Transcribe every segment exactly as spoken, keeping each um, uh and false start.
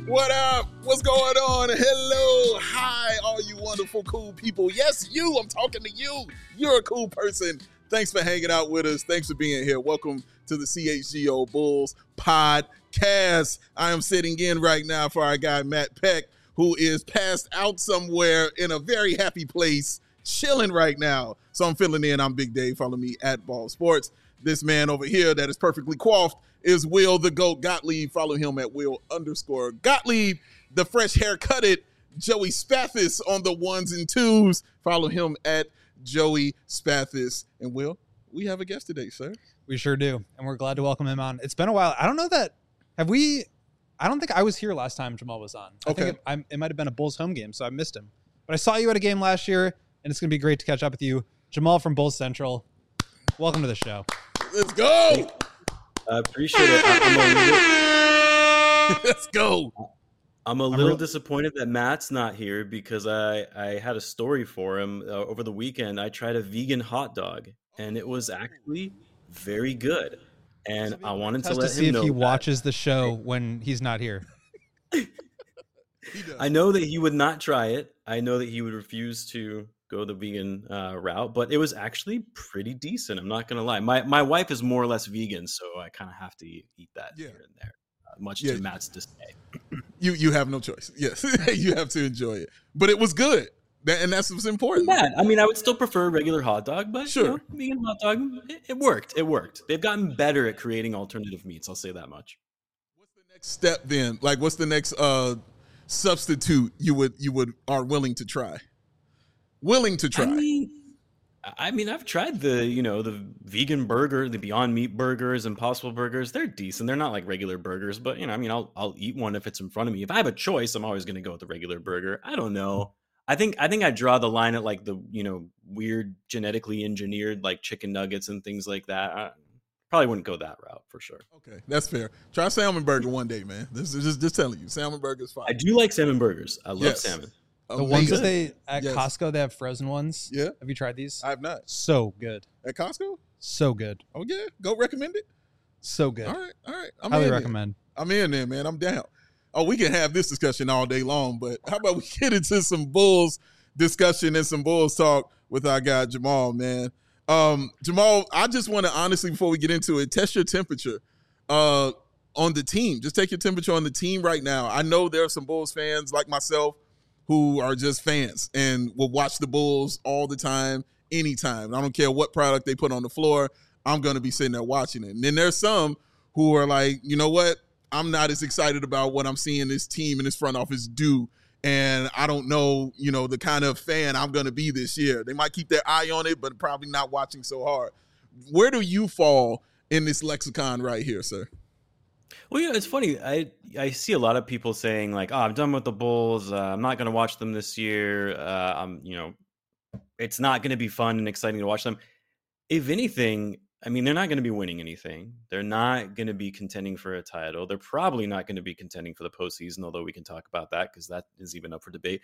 What up? What's going on? Hello. Hi, all you wonderful, cool people. Yes, you. I'm talking to you. You're a cool person. Thanks for hanging out with us. Thanks for being here. Welcome to the C H G O Bulls podcast. I am sitting in right now for our guy, Matt Peck, who is passed out somewhere in a very happy place, chilling right now. So I'm filling in. I'm Big Dave. Follow me at Ball Sports. This man over here that is perfectly coiffed is Will the GOAT Gottlieb. Follow him at Will underscore Gottlieb. The fresh haircutted Joey Spathis on the ones and twos. Follow him at Joey Spathis. And Will, we have a guest today, sir. We sure do. And we're glad to welcome him on. It's been a while. I don't know that, have we, I don't think I was here last time Jamal was on. I okay. think it, I, it might have been a Bulls home game, so I missed him. But I saw you at a game last year, and it's going to be great to catch up with you. Jamal from Bulls Central, welcome to the show. Let's go. I appreciate it. I'm a little, Let's go. I'm a little disappointed that Matt's not here because I, I had a story for him uh, over the weekend. I tried a vegan hot dog, and it was actually very good. And I wanted to let to see him know if he that. watches the show when he's not here. I know that he would not try it. I know that he would refuse to go the vegan uh, route, but it was actually pretty decent. I'm not going to lie. My my wife is more or less vegan, so I kind of have to eat, eat that yeah. here and there, uh, much yeah. to Matt's dismay. You you have no choice. Yes, you have to enjoy it. But it was good, that, and that's what's important. Bad. I mean, I would still prefer a regular hot dog, but sure, you know, vegan hot dog, it, it worked. It worked. They've gotten better at creating alternative meats. I'll say that much. What's the next step then? Like, what's the next uh, substitute you would you would are willing to try? Willing to try. I mean, I mean, I've tried the, you know, the vegan burger, the Beyond Meat burgers, Impossible burgers. They're decent. They're not like regular burgers, but you know, I mean, I'll I'll eat one if it's in front of me. If I have a choice, I'm always going to go with the regular burger. I don't know. I think I think I draw the line at like the, you know, weird genetically engineered like chicken nuggets and things like that. I probably wouldn't go that route for sure. Okay, that's fair. Try salmon burger one day, man. This is just just telling you, salmon burger is fine. I do like salmon burgers. I love yes. salmon. The Amazing. ones that they at yes. Costco, they have frozen ones. Yeah. Have you tried these? I have not. So good. At Costco? So good. Oh, yeah. Go recommend it? So good. All right. All right. I'm Highly in recommend. There. I'm in there, man. I'm down. Oh, we can have this discussion all day long, but how about we get into some Bulls discussion and some Bulls talk with our guy Jamal, man. Um, Jamal, I just want to honestly, before we get into it, test your temperature uh, on the team. Just take your temperature on the team right now. I know there are some Bulls fans like myself who are just fans and will watch the Bulls all the time, anytime. I don't care what product they put on the floor. I'm going to be sitting there watching it. And then there's some who are like, you know what? I'm not as excited about what I'm seeing this team and this front office do. And I don't know, you know, the kind of fan I'm going to be this year. They might keep their eye on it, but probably not watching so hard. Where do you fall in this lexicon right here, sir? Well, yeah, it's funny. I I see a lot of people saying like, "Oh, I'm done with the Bulls. Uh, I'm not going to watch them this year. Uh, I'm, you know, it's not going to be fun and exciting to watch them." If anything, I mean, they're not going to be winning anything. They're not going to be contending for a title. They're probably not going to be contending for the postseason, although we can talk about that because that is even up for debate.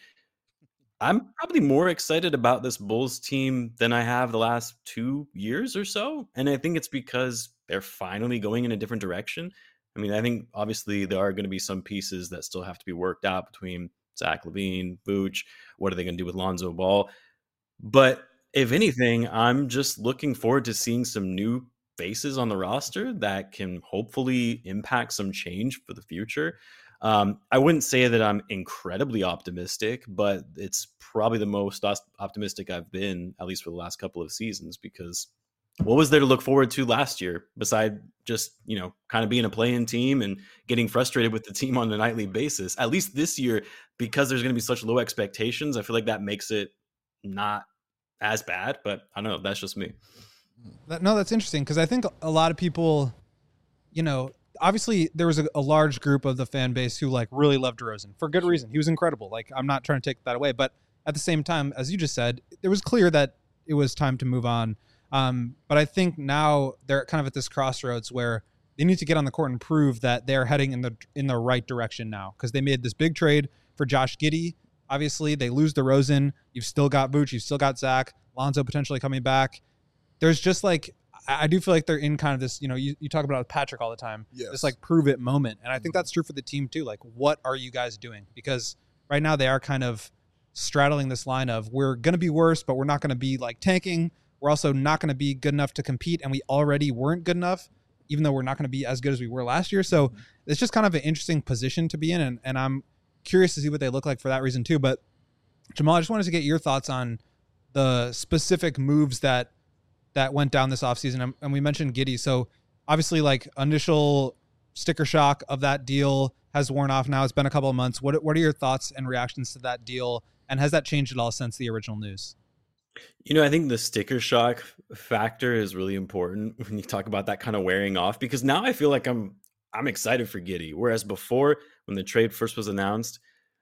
I'm probably more excited about this Bulls team than I have the last two years or so, and I think it's because they're finally going in a different direction. I mean, I think obviously there are going to be some pieces that still have to be worked out between Zach LaVine, Vooch. What are they going to do with Lonzo Ball? But if anything, I'm just looking forward to seeing some new faces on the roster that can hopefully impact some change for the future. Um, I wouldn't say that I'm incredibly optimistic, but it's probably the most optimistic I've been, at least for the last couple of seasons, because what was there to look forward to last year besides just, you know, kind of being a play-in team and getting frustrated with the team on a nightly basis? At least this year, because there's going to be such low expectations, I feel like that makes it not as bad, but I don't know. That's just me. That, no, that's interesting because I think a lot of people, you know, obviously there was a, a large group of the fan base who like really loved DeRozan for good reason. He was incredible. Like, I'm not trying to take that away, but at the same time, as you just said, it was clear that it was time to move on. Um, but I think now they're kind of at this crossroads where they need to get on the court and prove that they're heading in the in the right direction now because they made this big trade for Josh Giddey. Obviously, they lose DeRozan. You've still got Vooch. You've still got Zach. Lonzo potentially coming back. There's just like, I, I do feel like they're in kind of this, you know, you, you talk about it with Patrick all the time, Yes. this like prove it moment. And I think that's true for the team too. Like, what are you guys doing? Because right now they are kind of straddling this line of we're going to be worse, but we're not going to be like tanking. We're also not going to be good enough to compete. And we already weren't good enough, even though we're not going to be as good as we were last year. So mm-hmm. it's just kind of an interesting position to be in. And, and I'm curious to see what they look like for that reason too. But Jamal, I just wanted to get your thoughts on the specific moves that that went down this offseason. And we mentioned Giddey. So obviously like initial sticker shock of that deal has worn off now. It's been a couple of months. What what are your thoughts and reactions to that deal? And has that changed at all since the original news? You know, I think the sticker shock factor is really important when you talk about that kind of wearing off, because now I feel like I'm I'm excited for Giddey. Whereas before, when the trade first was announced,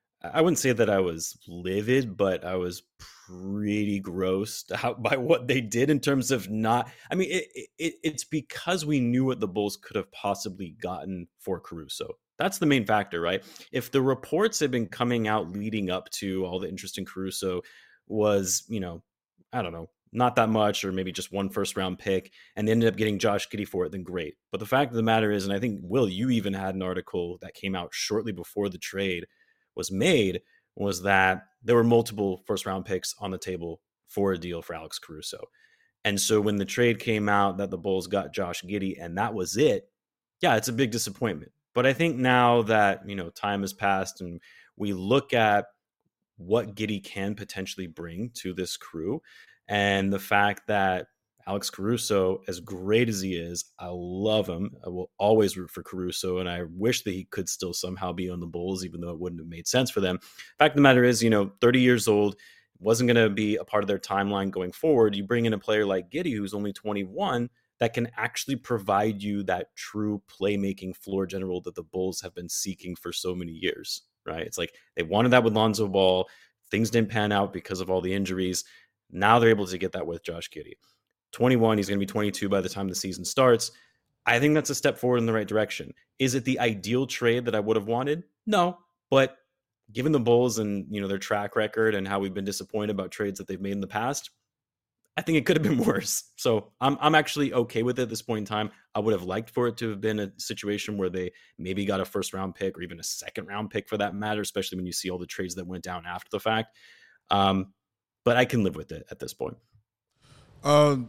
I wouldn't say that I was livid, but I was pretty grossed out by what they did in terms of not. I mean, it, it, it's because we knew what the Bulls could have possibly gotten for Caruso. That's the main factor, right? If the reports had been coming out leading up to all the interest in Caruso was, you know, I don't know, not that much, or maybe just one first round pick, and they ended up getting Josh Giddey for it, then great. But the fact of the matter is, and I think, Will, you even had an article that came out shortly before the trade was made, was that there were multiple first round picks on the table for a deal for Alex Caruso. And so when the trade came out that the Bulls got Josh Giddey and that was it, yeah, it's a big disappointment. But I think now that, you know, time has passed and we look at what Giddey can potentially bring to this crew, and the fact that Alex Caruso, as great as he is, I love him. I will always root for Caruso, and I wish that he could still somehow be on the Bulls, even though it wouldn't have made sense for them. Fact of the matter is, you know, thirty years old, wasn't going to be a part of their timeline going forward. You bring in a player like Giddey, who's only twenty-one, that can actually provide you that true playmaking floor general that the Bulls have been seeking for so many years, right? It's like they wanted that with Lonzo Ball. Things didn't pan out because of all the injuries. Now they're able to get that with Josh Giddey. twenty-one, he's going to be twenty-two by the time the season starts. I think that's a step forward in the right direction. Is it the ideal trade that I would have wanted? No, but given the Bulls and, you know, their track record and how we've been disappointed about trades that they've made in the past, I think it could have been worse. So I'm I'm actually okay with it at this point in time. I would have liked for it to have been a situation where they maybe got a first round pick or even a second round pick for that matter, especially when you see all the trades that went down after the fact. Um, but I can live with it at this point. Um,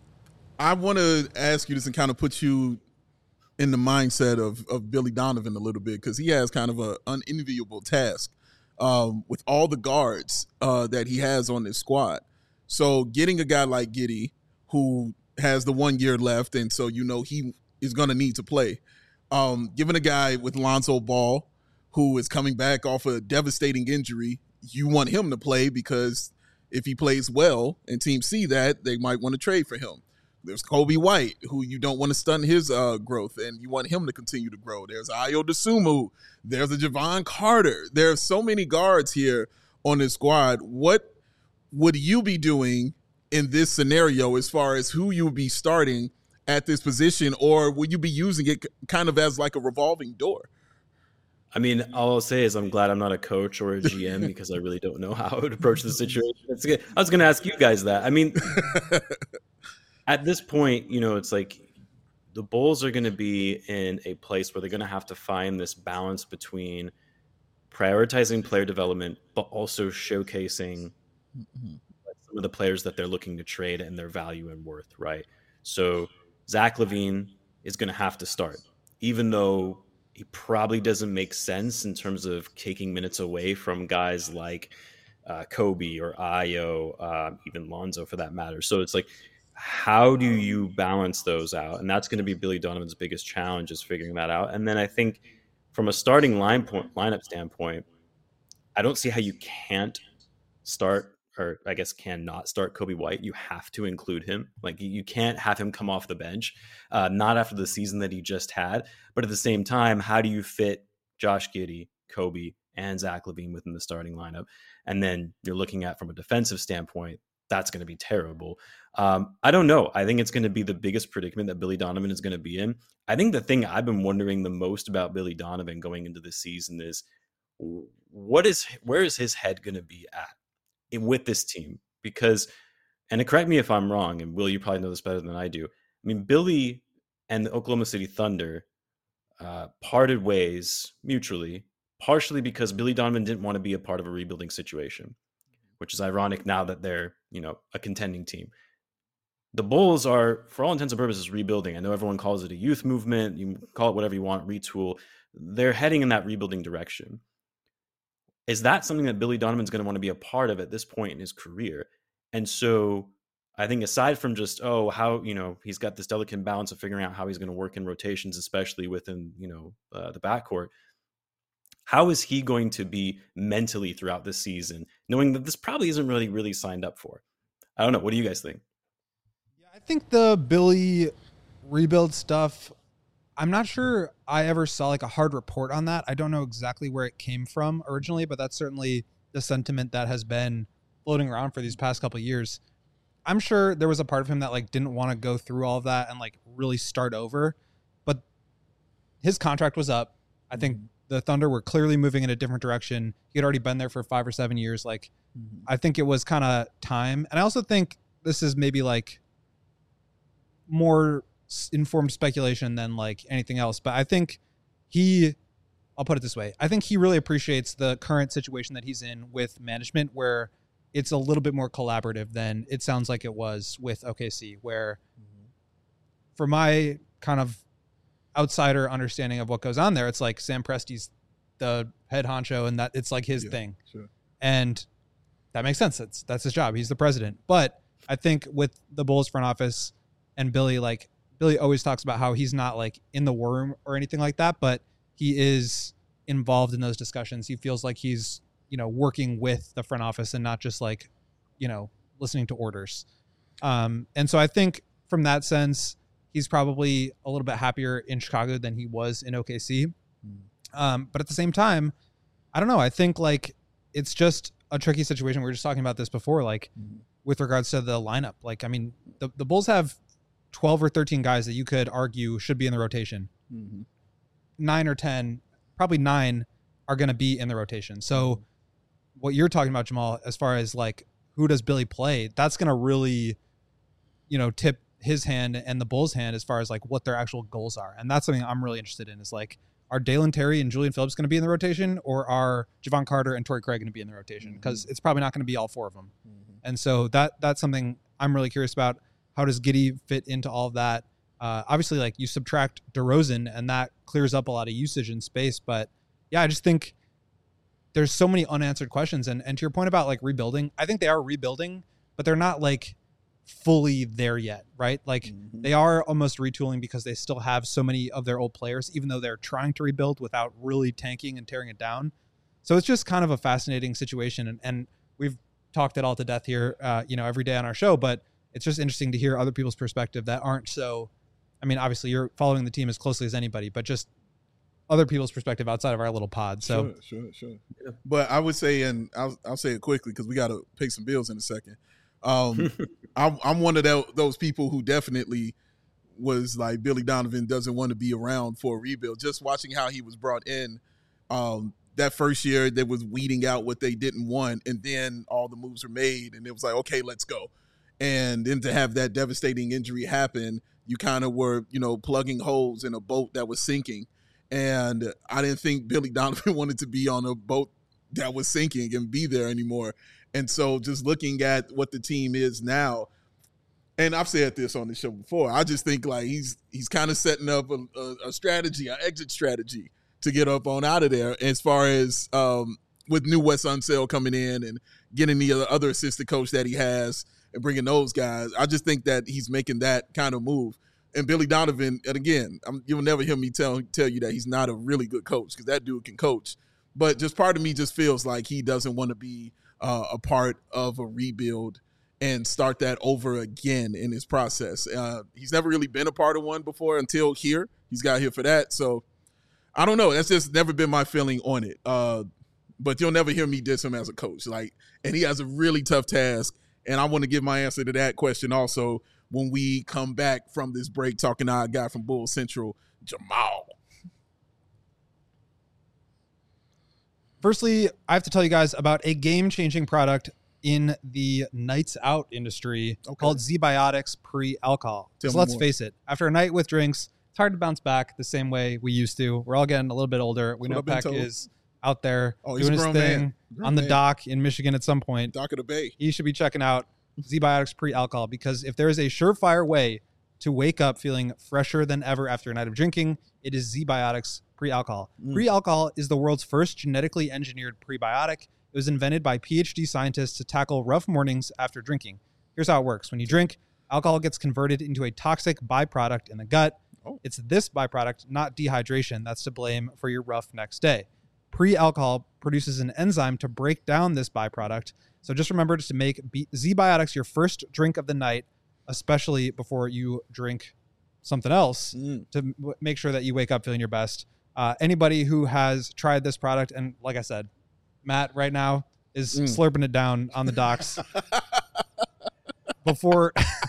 I want to ask you this and kind of put you in the mindset of, of Billy Donovan a little bit, because he has kind of an unenviable task um, with all the guards uh, that he has on this squad. So getting a guy like Giddey, who has the one year left, and so you know he is going to need to play. Um, giving a guy with Lonzo Ball, who is coming back off a devastating injury, you want him to play because if he plays well and teams see that, they might want to trade for him. There's Kobe White, who you don't want to stunt his uh, growth, and you want him to continue to grow. There's Ayo Dosunmu. There's a Javon Carter. There are so many guards here on this squad. What would you be doing in this scenario as far as who you would be starting at this position, or would you be using it kind of as like a revolving door? I mean, all I'll say is I'm glad I'm not a coach or a G M because I really don't know how I would approach the situation. It's good. I was going to ask you guys that. I mean, at this point, you know, it's like the Bulls are going to be in a place where they're going to have to find this balance between prioritizing player development, but also showcasing mm-hmm. some of the players that they're looking to trade and their value and worth, right? So Zach LaVine is going to have to start, even though he probably doesn't make sense in terms of taking minutes away from guys like uh, Kobe or Ayo, uh, even Lonzo for that matter. So it's like, how do you balance those out? And that's going to be Billy Donovan's biggest challenge, is figuring that out. And then I think from a starting line point, lineup standpoint, I don't see how you can't start, or I guess cannot start Kobe White. You have to include him. Like, you can't have him come off the bench, uh, not after the season that he just had. But at the same time, how do you fit Josh Giddey, Kobe, and Zach LaVine within the starting lineup? And then you're looking at, from a defensive standpoint, that's going to be terrible. Um, I don't know. I think it's going to be the biggest predicament that Billy Donovan is going to be in. I think the thing I've been wondering the most about Billy Donovan going into this season is, what is, where is his head going to be at with this team? Because, and correct me if I'm wrong, and Will, you probably know this better than I do, I mean, Billy and the Oklahoma City Thunder uh, parted ways mutually, partially because Billy Donovan didn't want to be a part of a rebuilding situation, which is ironic now that they're, you know, a contending team. The Bulls are, for all intents and purposes, rebuilding. I know everyone calls it a youth movement. You call it whatever you want, retool. They're heading in that rebuilding direction. Is that something that Billy Donovan's going to want to be a part of at this point in his career? And so I think aside from just, oh, how, you know, he's got this delicate balance of figuring out how he's going to work in rotations, especially within, you know, uh, the backcourt, how is he going to be mentally throughout this season, knowing that this probably isn't really, really signed up for? I don't know. What do you guys think? Yeah, I think the Billy rebuild stuff, I'm not sure I ever saw like a hard report on that. I don't know exactly where it came from originally, but that's certainly the sentiment that has been floating around for these past couple of years. I'm sure there was a part of him that like didn't want to go through all of that and like really start over, but his contract was up. I think mm-hmm. the Thunder were clearly moving in a different direction. He had already been there for five or seven years. Like, mm-hmm. I think it was kind of time. And I also think this is maybe like more informed speculation than like anything else. But I think he, I'll put it this way. I think he really appreciates the current situation that he's in with management, where it's a little bit more collaborative than it sounds like it was with O K C, where mm-hmm. for my kind of outsider understanding of what goes on there, it's like Sam Presti's the head honcho and that it's like his yeah, thing. Sure. And that makes sense. That's, that's his job. He's the president. But I think with the Bulls front office and Billy, like Billy always talks about how he's not like in the war room or anything like that, but he is involved in those discussions. He feels like he's, you know, working with the front office and not just like, you know, listening to orders. Um, and so I think from that sense, he's probably a little bit happier in Chicago than he was in O K C. Mm. Um, but at the same time, I don't know. I think like it's just a tricky situation. We were just talking about this before, like mm. with regards to the lineup. Like, I mean, the, the Bulls have twelve or thirteen guys that you could argue should be in the rotation. Mm-hmm. Nine or ten, probably nine are going to be in the rotation. So what you're talking about, Jamal, as far as like, who does Billy play? That's going to really, you know, tip his hand and the Bulls' hand as far as like what their actual goals are. And that's something I'm really interested in, is like, are Dalen Terry and Julian Phillips going to be in the rotation, or are Javon Carter and Torrey Craig going to be in the rotation? Because mm-hmm. it's probably not going to be all four of them. Mm-hmm. And so that that's something I'm really curious about. How does Giddey fit into all of that? Uh, obviously, like you subtract DeRozan and that clears up a lot of usage in space. But yeah, I just think there's so many unanswered questions. And, and to your point about like rebuilding, I think they are rebuilding, but they're not like fully there yet, right? Like mm-hmm. they are almost retooling because they still have so many of their old players, even though they're trying to rebuild without really tanking and tearing it down. So it's just kind of a fascinating situation. And, and we've talked it all to death here, uh, you know, every day on our show, but it's just interesting to hear other people's perspective that aren't so, I mean, obviously you're following the team as closely as anybody, but just other people's perspective outside of our little pod. So sure, sure, sure. Yeah. But I would say, and I'll, I'll say it quickly because we got to pay some bills in a second. Um, I'm, I'm one of the, those people who definitely was like, Billy Donovan doesn't want to be around for a rebuild. Just watching how he was brought in um, that first year, they was weeding out what they didn't want. And then all the moves were made and it was like, okay, let's go. And then to have that devastating injury happen, you kind of were, you know, plugging holes in a boat that was sinking. And I didn't think Billy Donovan wanted to be on a boat that was sinking and be there anymore. And so just looking at what the team is now, and I've said this on the show before, I just think like he's he's kind of setting up a, a, a strategy, an exit strategy to get up on out of there as far as um, with new Wes Unseld coming in and getting the other, other assistant coach that he has and bringing those guys. I just think that he's making that kind of move. And Billy Donovan, and again, I'm, you'll never hear me tell tell you that he's not a really good coach because that dude can coach. But just part of me just feels like he doesn't want to be uh, a part of a rebuild and start that over again in his process. Uh, he's never really been a part of one before until here. He's got here for that. So I don't know. That's just never been my feeling on it. Uh, but you'll never hear me diss him as a coach. Like, and he has a really tough task. And I want to give my answer to that question also when we come back from this break, talking to our guy from Bull Central, Jamal. Firstly, I have to tell you guys about a game-changing product in the nights out industry Okay. called Z-Biotics Pre-Alcohol. Tell So me let's more. face it, after a night with drinks, it's hard to bounce back the same way we used to. We're all getting a little bit older. We That's know what I've been Peck told. is out there Oh, he's doing a his grown thing man. Grown on the man. dock in Michigan at some point. Dock of the Bay. He should be checking out Z-Biotics Pre-Alcohol, because if there is a surefire way to wake up feeling fresher than ever after a night of drinking, it is Z-Biotics Pre-Alcohol. Mm. Pre-Alcohol is the world's first genetically engineered prebiotic. It was invented by PhD scientists to tackle rough mornings after drinking. Here's how it works. When you drink, alcohol gets converted into a toxic byproduct in the gut. Oh. It's this byproduct, not dehydration, that's to blame for your rough next day. Pre-alcohol produces an enzyme to break down this byproduct. So just remember to make B- Z-Biotics your first drink of the night, especially before you drink something else, Mm. to m- make sure that you wake up feeling your best. Uh, anybody who has tried this product, and like I said, Matt right now is Mm. slurping it down on the docks before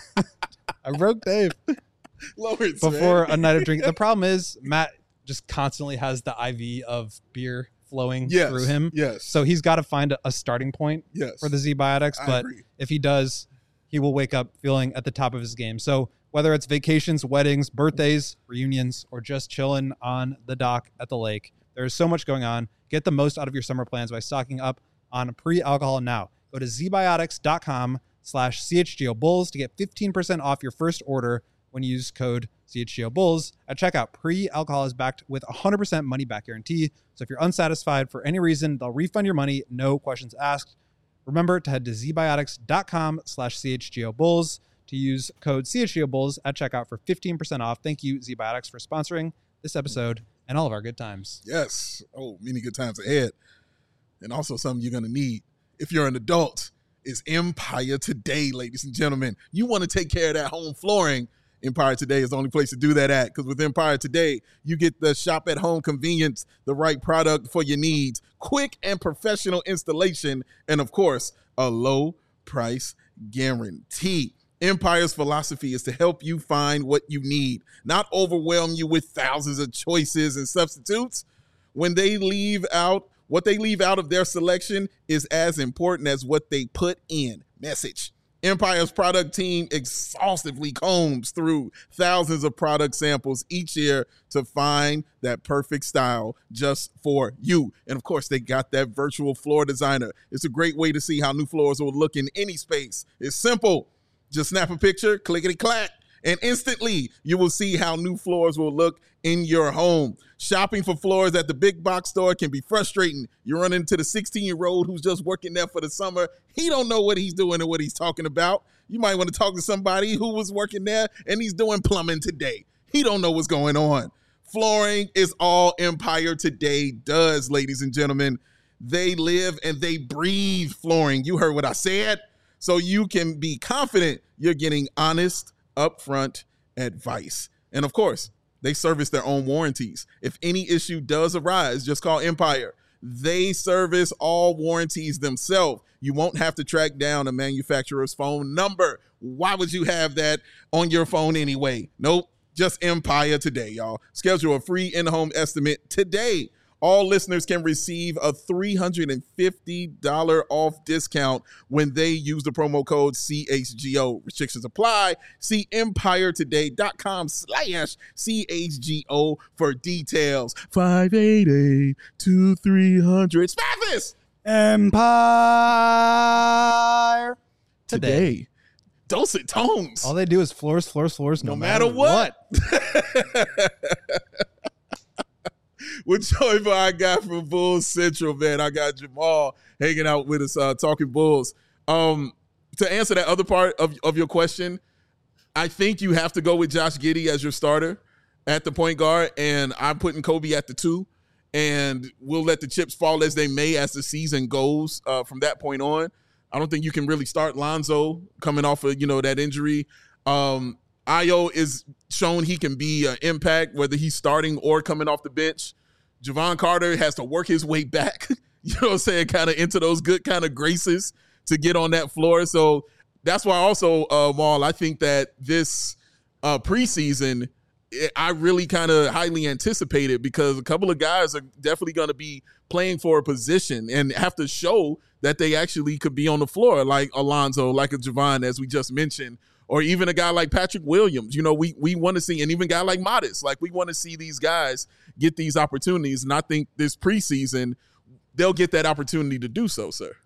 I broke Dave Lawrence, before man. a night of drinking. The problem is Matt just constantly has the I V of beer flowing yes. through him. Yes. So he's got to find a, a starting point yes. for the Z-Biotics. I But agree. if he does, he will wake up feeling at the top of his game. So whether it's vacations, weddings, birthdays, reunions, or just chilling on the dock at the lake, there's so much going on. Get the most out of your summer plans by stocking up on pre-alcohol now. Go to zbiotics.com slash CHGO Bulls to get fifteen percent off your first order when you use code C H G O Bulls at checkout. Pre-alcohol is backed with a one hundred percent money back guarantee. So if you're unsatisfied for any reason, they'll refund your money, no questions asked. Remember to head to zbiotics.com slash CHGO Bulls to use code C H G O Bulls at checkout for fifteen percent off. Thank you, Z-Biotics, for sponsoring this episode and all of our good times. Yes. Oh, many good times ahead. And also something you're going to need if you're an adult is Empire Today, ladies and gentlemen. You want to take care of that home flooring. Empire Today is the only place to do that at, because with Empire Today, you get the shop at home convenience, the right product for your needs, quick and professional installation, and of course, a low price guarantee. Empire's philosophy is to help you find what you need, not overwhelm you with thousands of choices and substitutes. When they leave out, what they leave out of their selection is as important as what they put in. Message. Empire's product team exhaustively combs through thousands of product samples each year to find that perfect style just for you. And of course, they got that virtual floor designer. It's a great way to see how new floors will look in any space. It's simple. Just snap a picture, clickety-clack, and instantly you will see how new floors will look in your home. Shopping for floors at the big box store can be frustrating. You run into the sixteen-year-old who's just working there for the summer. He don't know what he's doing and what he's talking about. You might want to talk to somebody who was working there and he's doing plumbing today. He don't know what's going on. Flooring is all Empire Today does, ladies and gentlemen. They live and they breathe flooring. You heard what I said. So you can be confident you're getting honest, upfront advice. And of course, they service their own warranties. If any issue does arise, just call Empire. They service all warranties themselves. You won't have to track down a manufacturer's phone number. Why would you have that on your phone anyway? Nope, just Empire Today, y'all. Schedule a free in-home estimate today. All listeners can receive a three hundred fifty dollars off discount when they use the promo code C H G O. Restrictions apply. See empiretoday.com slash CHGO for details. five eight eight, two three zero zero. Spathis! Empire Today. Dulcet tones. All they do is floors, floors, floors, no, no matter what. We're joined by our guy from Bulls Central, man. I got Jamal hanging out with us, uh, talking Bulls. Um, to answer that other part of, of your question, I think you have to go with Josh Giddey as your starter at the point guard, and I'm putting Kobe at the two, and we'll let the chips fall as they may as the season goes uh, from that point on. I don't think you can really start Lonzo coming off of, you know, that injury. Um, Ayo is shown he can be an impact, whether he's starting or coming off the bench. Javon Carter has to work his way back, you know what I'm saying, kind of into those good kind of graces to get on that floor. So that's why also, uh, Maul, I think that this uh, preseason, it, I really kind of highly anticipated, because a couple of guys are definitely going to be playing for a position and have to show that they actually could be on the floor, like Alonzo, like a Javon, as we just mentioned, or even a guy like Patrick Williams. You know, we we want to see, and even a guy like Modest, like we want to see these guys get these opportunities. And I think this preseason, they'll get that opportunity to do so, sir.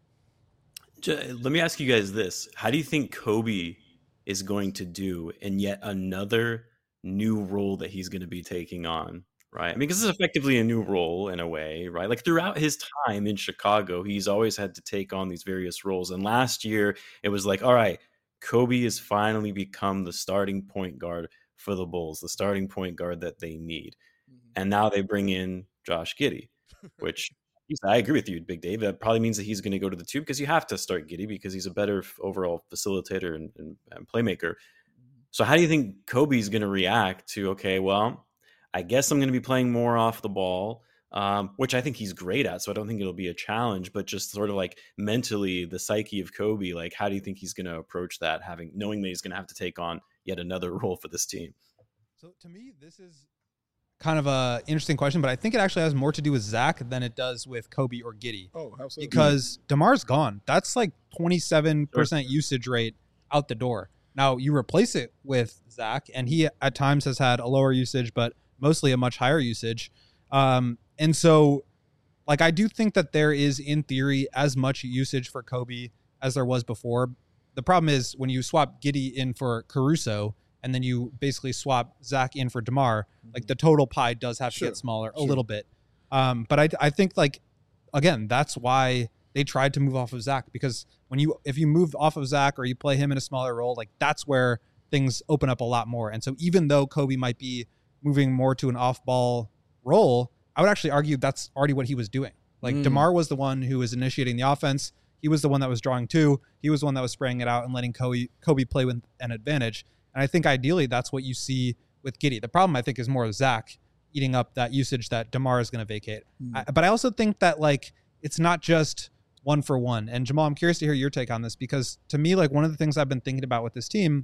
Let me ask you guys this. How do you think Kobe is going to do in yet another new role that he's going to be taking on, right? I mean, because it's effectively a new role in a way, right? Like throughout his time in Chicago, he's always had to take on these various roles. And last year, it was like, all right, Kobe has finally become the starting point guard for the Bulls, the starting point guard that they need. And now they bring in Josh Giddey, which I agree with you, Big Dave. That probably means that he's going to go to the two because you have to start Giddey because he's a better overall facilitator and, and, and playmaker. So how do you think Kobe's going to react to, okay, well, I guess I'm going to be playing more off the ball, um, which I think he's great at. So I don't think it'll be a challenge, but just sort of like mentally the psyche of Kobe, like how do you think he's going to approach that, having knowing that he's going to have to take on yet another role for this team? So to me, this is kind of a interesting question, but I think it actually has more to do with Zach than it does with Kobe or Giddey. Oh, how so? Because DeMar's gone. That's like twenty-seven percent sure. usage rate out the door. Now you replace it with Zach, and he at times has had a lower usage, but mostly a much higher usage. Um, and so like, I do think that there is in theory as much usage for Kobe as there was before. The problem is when you swap Giddey in for Caruso, and then you basically swap Zach in for DeMar, like the total pie does have sure, to get smaller sure. a little bit. Um, but I, I think like, again, that's why they tried to move off of Zach, because when you, if you move off of Zach or you play him in a smaller role, like that's where things open up a lot more. And so even though Kobe might be moving more to an off ball role, I would actually argue that's already what he was doing. Like mm. DeMar was the one who was initiating the offense. He was the one that was drawing two. He was the one that was spraying it out and letting Kobe, Kobe play with an advantage. And I think ideally that's what you see with Giddey. The problem, I think, is more of Zach eating up that usage that DeMar is going to vacate. Mm. I, but I also think that like it's not just one for one. And Jamal, I'm curious to hear your take on this, because to me, like one of the things I've been thinking about with this team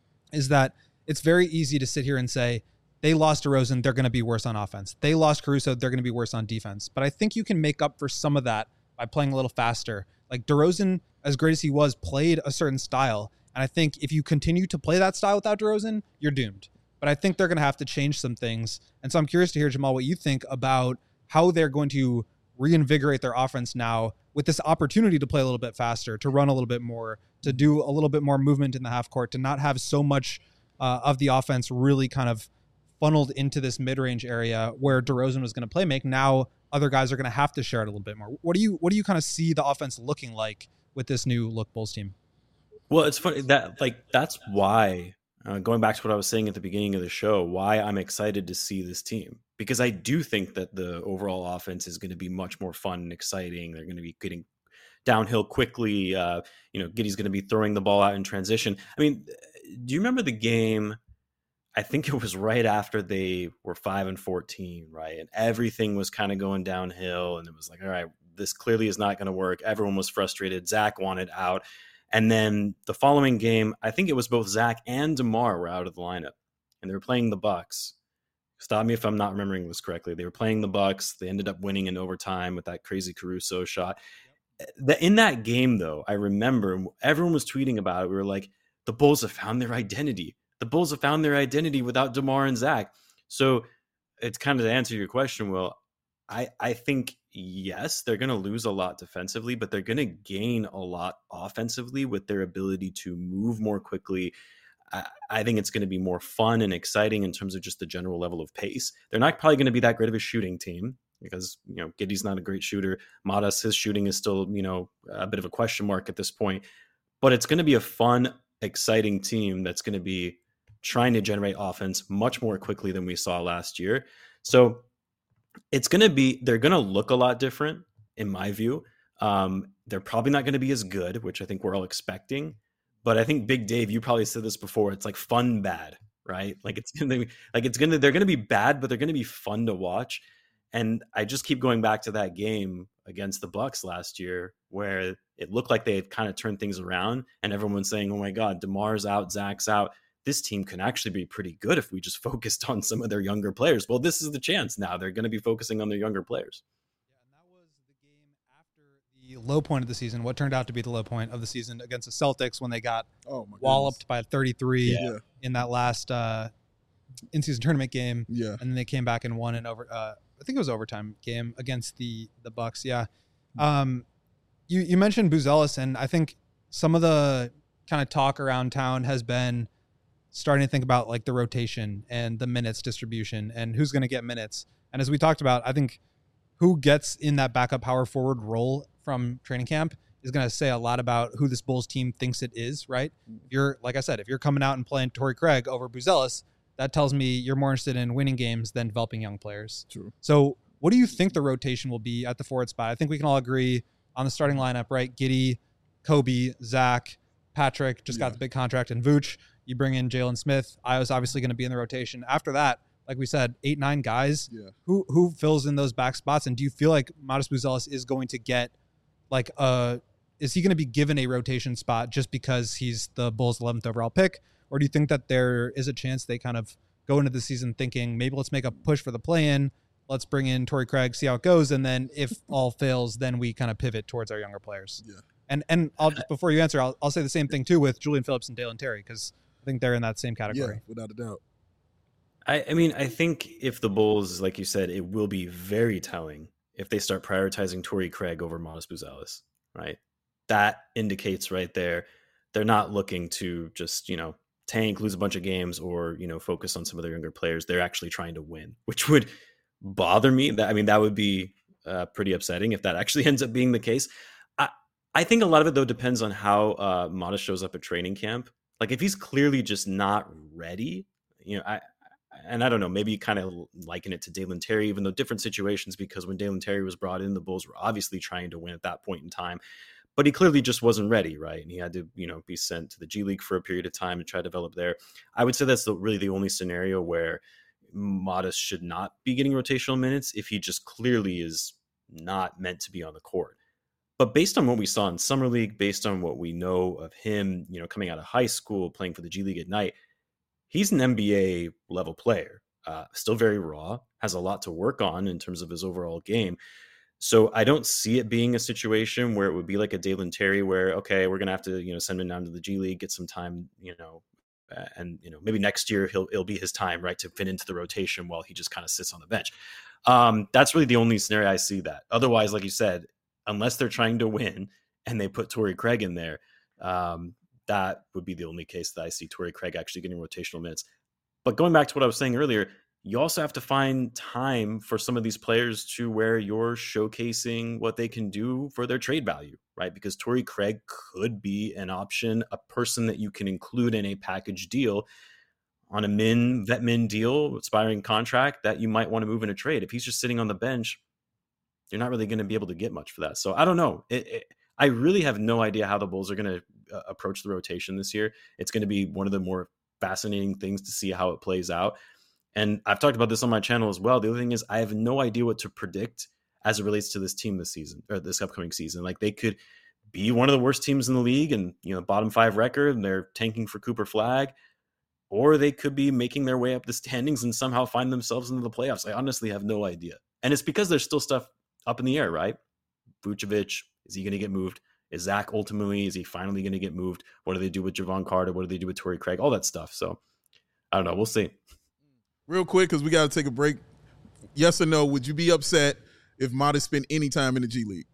is that it's very easy to sit here and say they lost DeRozan, they're going to be worse on offense. They lost Caruso, they're going to be worse on defense. But I think you can make up for some of that by playing a little faster. Like DeRozan, as great as he was, played a certain style. And I think if you continue to play that style without DeRozan, you're doomed. But I think they're going to have to change some things. And so I'm curious to hear, Jamal, what you think about how they're going to reinvigorate their offense now with this opportunity to play a little bit faster, to run a little bit more, to do a little bit more movement in the half court, to not have so much uh, of the offense really kind of funneled into this mid-range area where DeRozan was going to play make. Now other guys are going to have to share it a little bit more. What do you what do you kind of see the offense looking like with this new look Bulls team? Well, it's funny that like that's why uh, going back to what I was saying at the beginning of the show, why I'm excited to see this team, because I do think that the overall offense is going to be much more fun and exciting. They're going to be getting downhill quickly. Uh, you know, Giddey's going to be throwing the ball out in transition. I mean, do you remember the game? I think it was right after they were five and fourteen, right? And everything was kind of going downhill, and it was like, all right, this clearly is not going to work. Everyone was frustrated. Zach wanted out. And then the following game, I think it was both Zach and DeMar were out of the lineup, and they were playing the Bucks. Stop me if I'm not remembering this correctly. They were playing the Bucks. They ended up winning in overtime with that crazy Caruso shot. Yep. In that game, though, I remember everyone was tweeting about it. We were like, the Bulls have found their identity. The Bulls have found their identity without DeMar and Zach. So it's kind of to answer your question, Will, I, I think, yes, they're going to lose a lot defensively, but they're going to gain a lot offensively with their ability to move more quickly. I, I think it's going to be more fun and exciting in terms of just the general level of pace. They're not probably going to be that great of a shooting team because, you know, Giddey's not a great shooter. Modest, his shooting is still, you know, a bit of a question mark at this point. But it's going to be a fun, exciting team that's going to be trying to generate offense much more quickly than we saw last year. So it's going to be, they're going to look a lot different in my view. Um, they're probably not going to be as good, which I think we're all expecting. But I think Big Dave, you probably said this before. It's like fun bad, right? Like it's going to be like, it's going to, they're going to be bad, but they're going to be fun to watch. And I just keep going back to that game against the Bucks last year, where it looked like they had kind of turned things around and everyone's saying, oh my God, DeMar's out, Zach's out. This team can actually be pretty good if we just focused on some of their younger players. Well, this is the chance now. They're going to be focusing on their younger players. Yeah, and that was the game after the low point of the season, what turned out to be the low point of the season against the Celtics when they got oh my walloped goodness. by thirty-three Yeah. in that last uh, in-season tournament game. Yeah. And then they came back and won an over. Uh, I think it was overtime game against the the Bucks. Yeah. Um, you you mentioned Buzelis, and I think some of the kind of talk around town has been starting to think about like the rotation and the minutes distribution and who's going to get minutes. And as we talked about, I think who gets in that backup power forward role from training camp is going to say a lot about who this Bulls team thinks it is, right? If you're, like I said, if you're coming out and playing Torrey Craig over Buzelis, that tells me you're more interested in winning games than developing young players. True. So what do you think the rotation will be at the forward spot? I think we can all agree on the starting lineup, right? Giddey, Kobe, Zach, Patrick just Yeah. got the big contract, and Vooch. You bring in Jalen Smith. Io's obviously going to be in the rotation. After that, like we said, eight, nine guys. Yeah. Who who fills in those back spots? And do you feel like Modest Buzelis is going to get like a, is he going to be given a rotation spot just because he's the Bulls' eleventh overall pick? Or do you think that there is a chance they kind of go into the season thinking, maybe let's make a push for the play-in, let's bring in Torrey Craig, see how it goes, and then if all fails, then we kind of pivot towards our younger players? Yeah. And and I'll just, before you answer, I'll, I'll say the same thing too with Julian Phillips and Dalen Terry, because I think they're in that same category. Yeah, without a doubt. I, I mean, I think if the Bulls, like you said, it will be very telling if they start prioritizing Torrey Craig over Modest Buzelis, right? That indicates right there they're not looking to just, you know, tank, lose a bunch of games, or, you know, focus on some of their younger players. They're actually trying to win, which would bother me. That I mean, that would be uh, pretty upsetting if that actually ends up being the case. I, I think a lot of it, though, depends on how uh, Modest shows up at training camp. Like, if he's clearly just not ready, you know, I, and I don't know, maybe you kind of liken it to Dalen Terry, even though different situations, because when Dalen Terry was brought in, the Bulls were obviously trying to win at that point in time, but he clearly just wasn't ready, right? And he had to, you know, be sent to the G League for a period of time and try to develop there. I would say that's the, really the only scenario where Modest should not be getting rotational minutes if he just clearly is not meant to be on the court. But based on what we saw in Summer League, based on what we know of him, you know, coming out of high school, playing for the G League at night, he's an N B A level player, uh, still very raw, has a lot to work on in terms of his overall game. So I don't see it being a situation where it would be like a Dalen Terry where, okay, we're going to have to, you know, send him down to the G League, get some time, you know, uh, and, you know, maybe next year he'll, it'll be his time, right, to fit into the rotation while he just kind of sits on the bench. Um, that's really the only scenario I see that. Otherwise, like you said, unless they're trying to win and they put Torrey Craig in there, um, that would be the only case that I see Torrey Craig actually getting rotational minutes. But going back to what I was saying earlier, you also have to find time for some of these players to where you're showcasing what they can do for their trade value, right? Because Torrey Craig could be an option, a person that you can include in a package deal on a min, vet min deal, expiring contract that you might want to move in a trade. If he's just sitting on the bench, you're not really going to be able to get much for that. So I don't know. It, it, I really have no idea how the Bulls are going to uh, approach the rotation this year. It's going to be one of the more fascinating things to see how it plays out. And I've talked about this on my channel as well. The other thing is I have no idea what to predict as it relates to this team this season or this upcoming season. Like, they could be one of the worst teams in the league and, you know, bottom five record, and they're tanking for Cooper Flag, or they could be making their way up the standings and somehow find themselves into the playoffs. I honestly have no idea. And it's because there's still stuff up in the air, right? Vucevic, is he going to get moved? Is Zach ultimately, is he finally going to get moved? What do they do with Javon Carter? What do they do with Torrey Craig? All that stuff. So I don't know. We'll see. Real quick, because we got to take a break. Yes or no, would you be upset if Modest spent any time in the G League?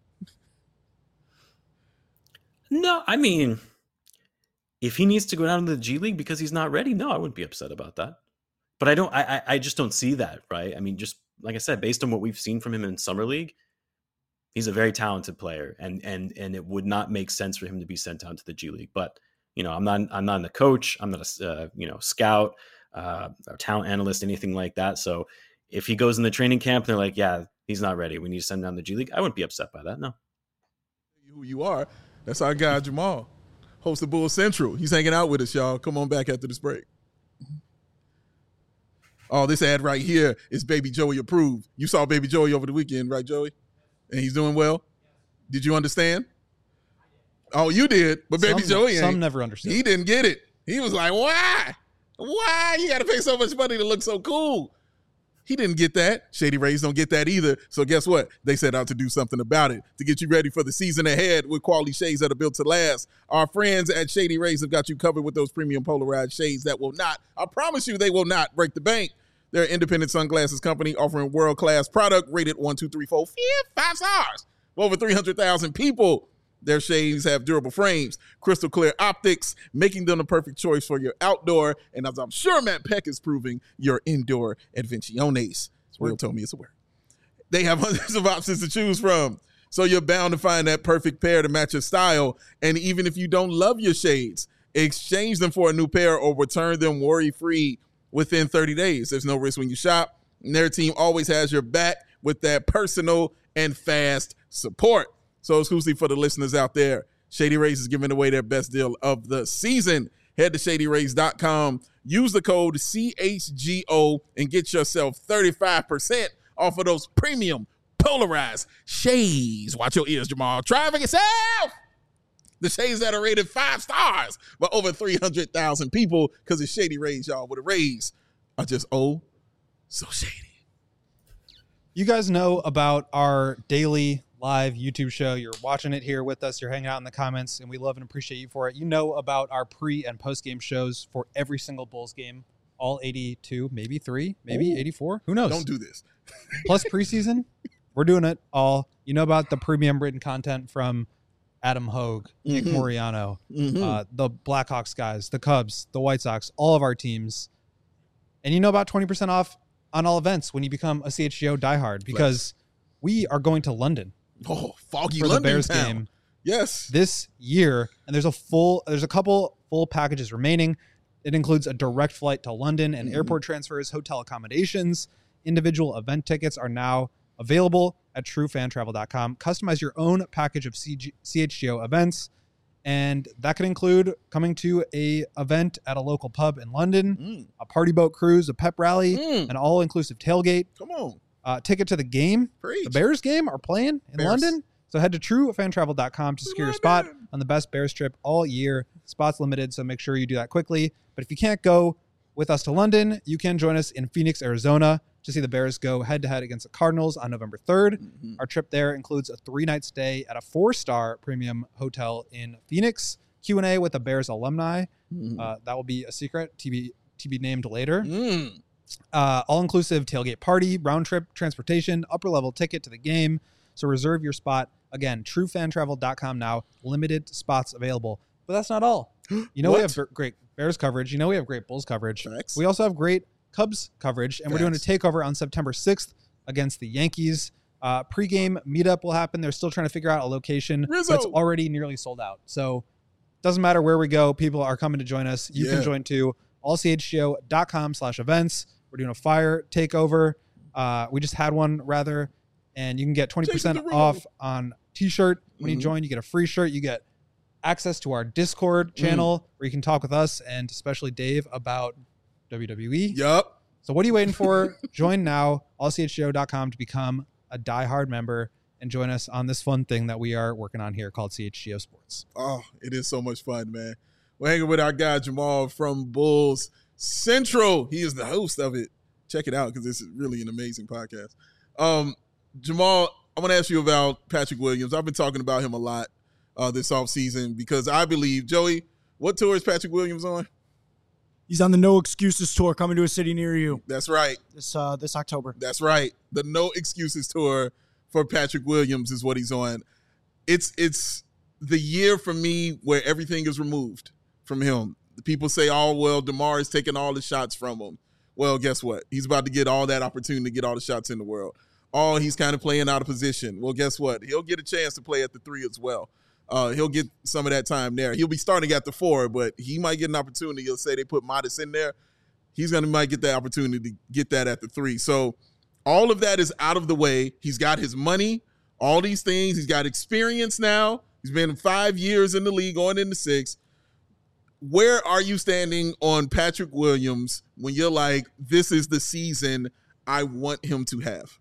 No, I mean, if he needs to go down to the G League because he's not ready, no, I wouldn't be upset about that. But I don't, I, I just don't see that, right? I mean, just like I said, based on what we've seen from him in Summer League, he's a very talented player, and and and it would not make sense for him to be sent down to the G League. But you know, I'm not, I'm not a coach, I'm not a uh, you know scout, uh, or talent analyst, anything like that. So if he goes in the training camp and they're like, yeah, he's not ready, we need to send him down to the G League, I wouldn't be upset by that. No. Who you are? That's our guy Jamal, host of Bull Central. He's hanging out with us, y'all. Come on back after this break. Oh, this ad right here is Baby Joey approved. You saw Baby Joey over the weekend, right, Joey? And he's doing well? Did you understand? Oh, you did, but Baby some, Joey ain't. Some never understood. He didn't get it. He was like, why? Why? You got to pay so much money to look so cool. He didn't get that. Shady Rays don't get that either. So guess what? They set out to do something about it to get you ready for the season ahead with quality shades that are built to last. Our friends at Shady Rays have got you covered with those premium polarized shades that will not, I promise you, they will not break the bank. They're an independent sunglasses company offering world-class product rated one, two, three, four, five stars. Over three hundred thousand people. Their shades have durable frames, crystal clear optics, making them the perfect choice for your outdoor, and as I'm sure Matt Peck is proving, your indoor adventiones. Will told me it's a word. They have hundreds of options to choose from, so you're bound to find that perfect pair to match your style. And even if you don't love your shades, exchange them for a new pair or return them worry-free within thirty days. There's no risk when you shop, and their team always has your back with that personal and fast support. So exclusively for the listeners out there, Shady Rays is giving away their best deal of the season. Head to shady rays dot com, use the code C H G O, and get yourself thirty-five percent off of those premium polarized shades. Watch your ears, Jamal. Try it for yourself. The shades that are rated five stars by over three hundred thousand people, because it's Shady Rays, y'all, with a raise are just oh so shady. You guys know about our daily live YouTube show. You're watching it here with us. You're hanging out in the comments, and we love and appreciate you for it. You know about our pre and post game shows for every single Bulls game, all eighty-two, maybe three, maybe Ooh. eighty-four. Who knows? Don't do this. Plus preseason, we're doing it all. You know about the premium written content from Adam Hogue, mm-hmm. Nick Moriano, mm-hmm. uh, the Blackhawks guys, the Cubs, the White Sox, all of our teams. And you know about twenty percent off on all events when you become a C H G O diehard, because right. we are going to London. Oh, foggy for London the Bears town. game. Yes. This year, and there's a full, there's a couple full packages remaining. It includes a direct flight to London and mm-hmm. airport transfers, hotel accommodations. Individual event tickets are now available at true fan travel dot com. Customize your own package of C G, C H G O events, and that could include coming to a event at a local pub in London, mm. a party boat cruise, a pep rally, mm. an all-inclusive tailgate. Come on. Uh, ticket to the game. Preach. The Bears game are playing in Bears. London. So head to true fan travel dot com to secure your spot on the best Bears trip all year. Spots limited, so make sure you do that quickly. But if you can't go with us to London, you can join us in Phoenix, Arizona to see the Bears go head-to-head against the Cardinals on November third. Mm-hmm. Our trip there includes a three-night stay at a four-star premium hotel in Phoenix, Q and A with the Bears alumni. Mm-hmm. Uh, that will be a secret, to be, to be named later. Mm. Uh, all-inclusive tailgate party, round-trip transportation, upper-level ticket to the game. So reserve your spot. Again, true fan travel dot com now. Limited spots available. But that's not all. You know, we have great Bears coverage. You know, we have great Bulls coverage. Facts. We also have great Cubs coverage. And Facts. We're doing a takeover on September sixth against the Yankees. Uh, pre-game meetup will happen. They're still trying to figure out a location. Rizzo. That's already nearly sold out. So doesn't matter where we go. People are coming to join us. You yeah. can join too. all c h g o dot com slash events. We're doing a fire takeover. Uh, we just had one, rather. And you can get twenty percent off on t-shirt. When mm-hmm. you join, you get a free shirt. You get access to our Discord channel mm. where you can talk with us and especially Dave about W W E. Yup. So what are you waiting for? Join now, all c h g o dot com to become a diehard member and join us on this fun thing that we are working on here called C H G O Sports. Oh, it is so much fun, man. We're hanging with our guy Jamal from Bulls Central. He is the host of it. Check it out because it's really an amazing podcast. Um, Jamal, I want to ask you about Patrick Williams. I've been talking about him a lot uh, this offseason because I believe, Joey, what tour is Patrick Williams on? He's on the No Excuses Tour coming to a city near you. That's right. This uh, this October. That's right. The No Excuses Tour for Patrick Williams is what he's on. It's it's the year for me where everything is removed from him. People say, oh, well, DeMar is taking all the shots from him. Well, guess what? He's about to get all that opportunity to get all the shots in the world. Oh, he's kind of playing out of position. Well, guess what? He'll get a chance to play at the three as well. Uh, he'll get some of that time there. He'll be starting at the four, but he might get an opportunity. He'll say they put Modest in there. He's going to might get that opportunity to get that at the three. So all of that is out of the way. He's got his money, all these things. He's got experience now. He's been five years in the league, going into six. Where are you standing on Patrick Williams when you're like, this is the season I want him to have?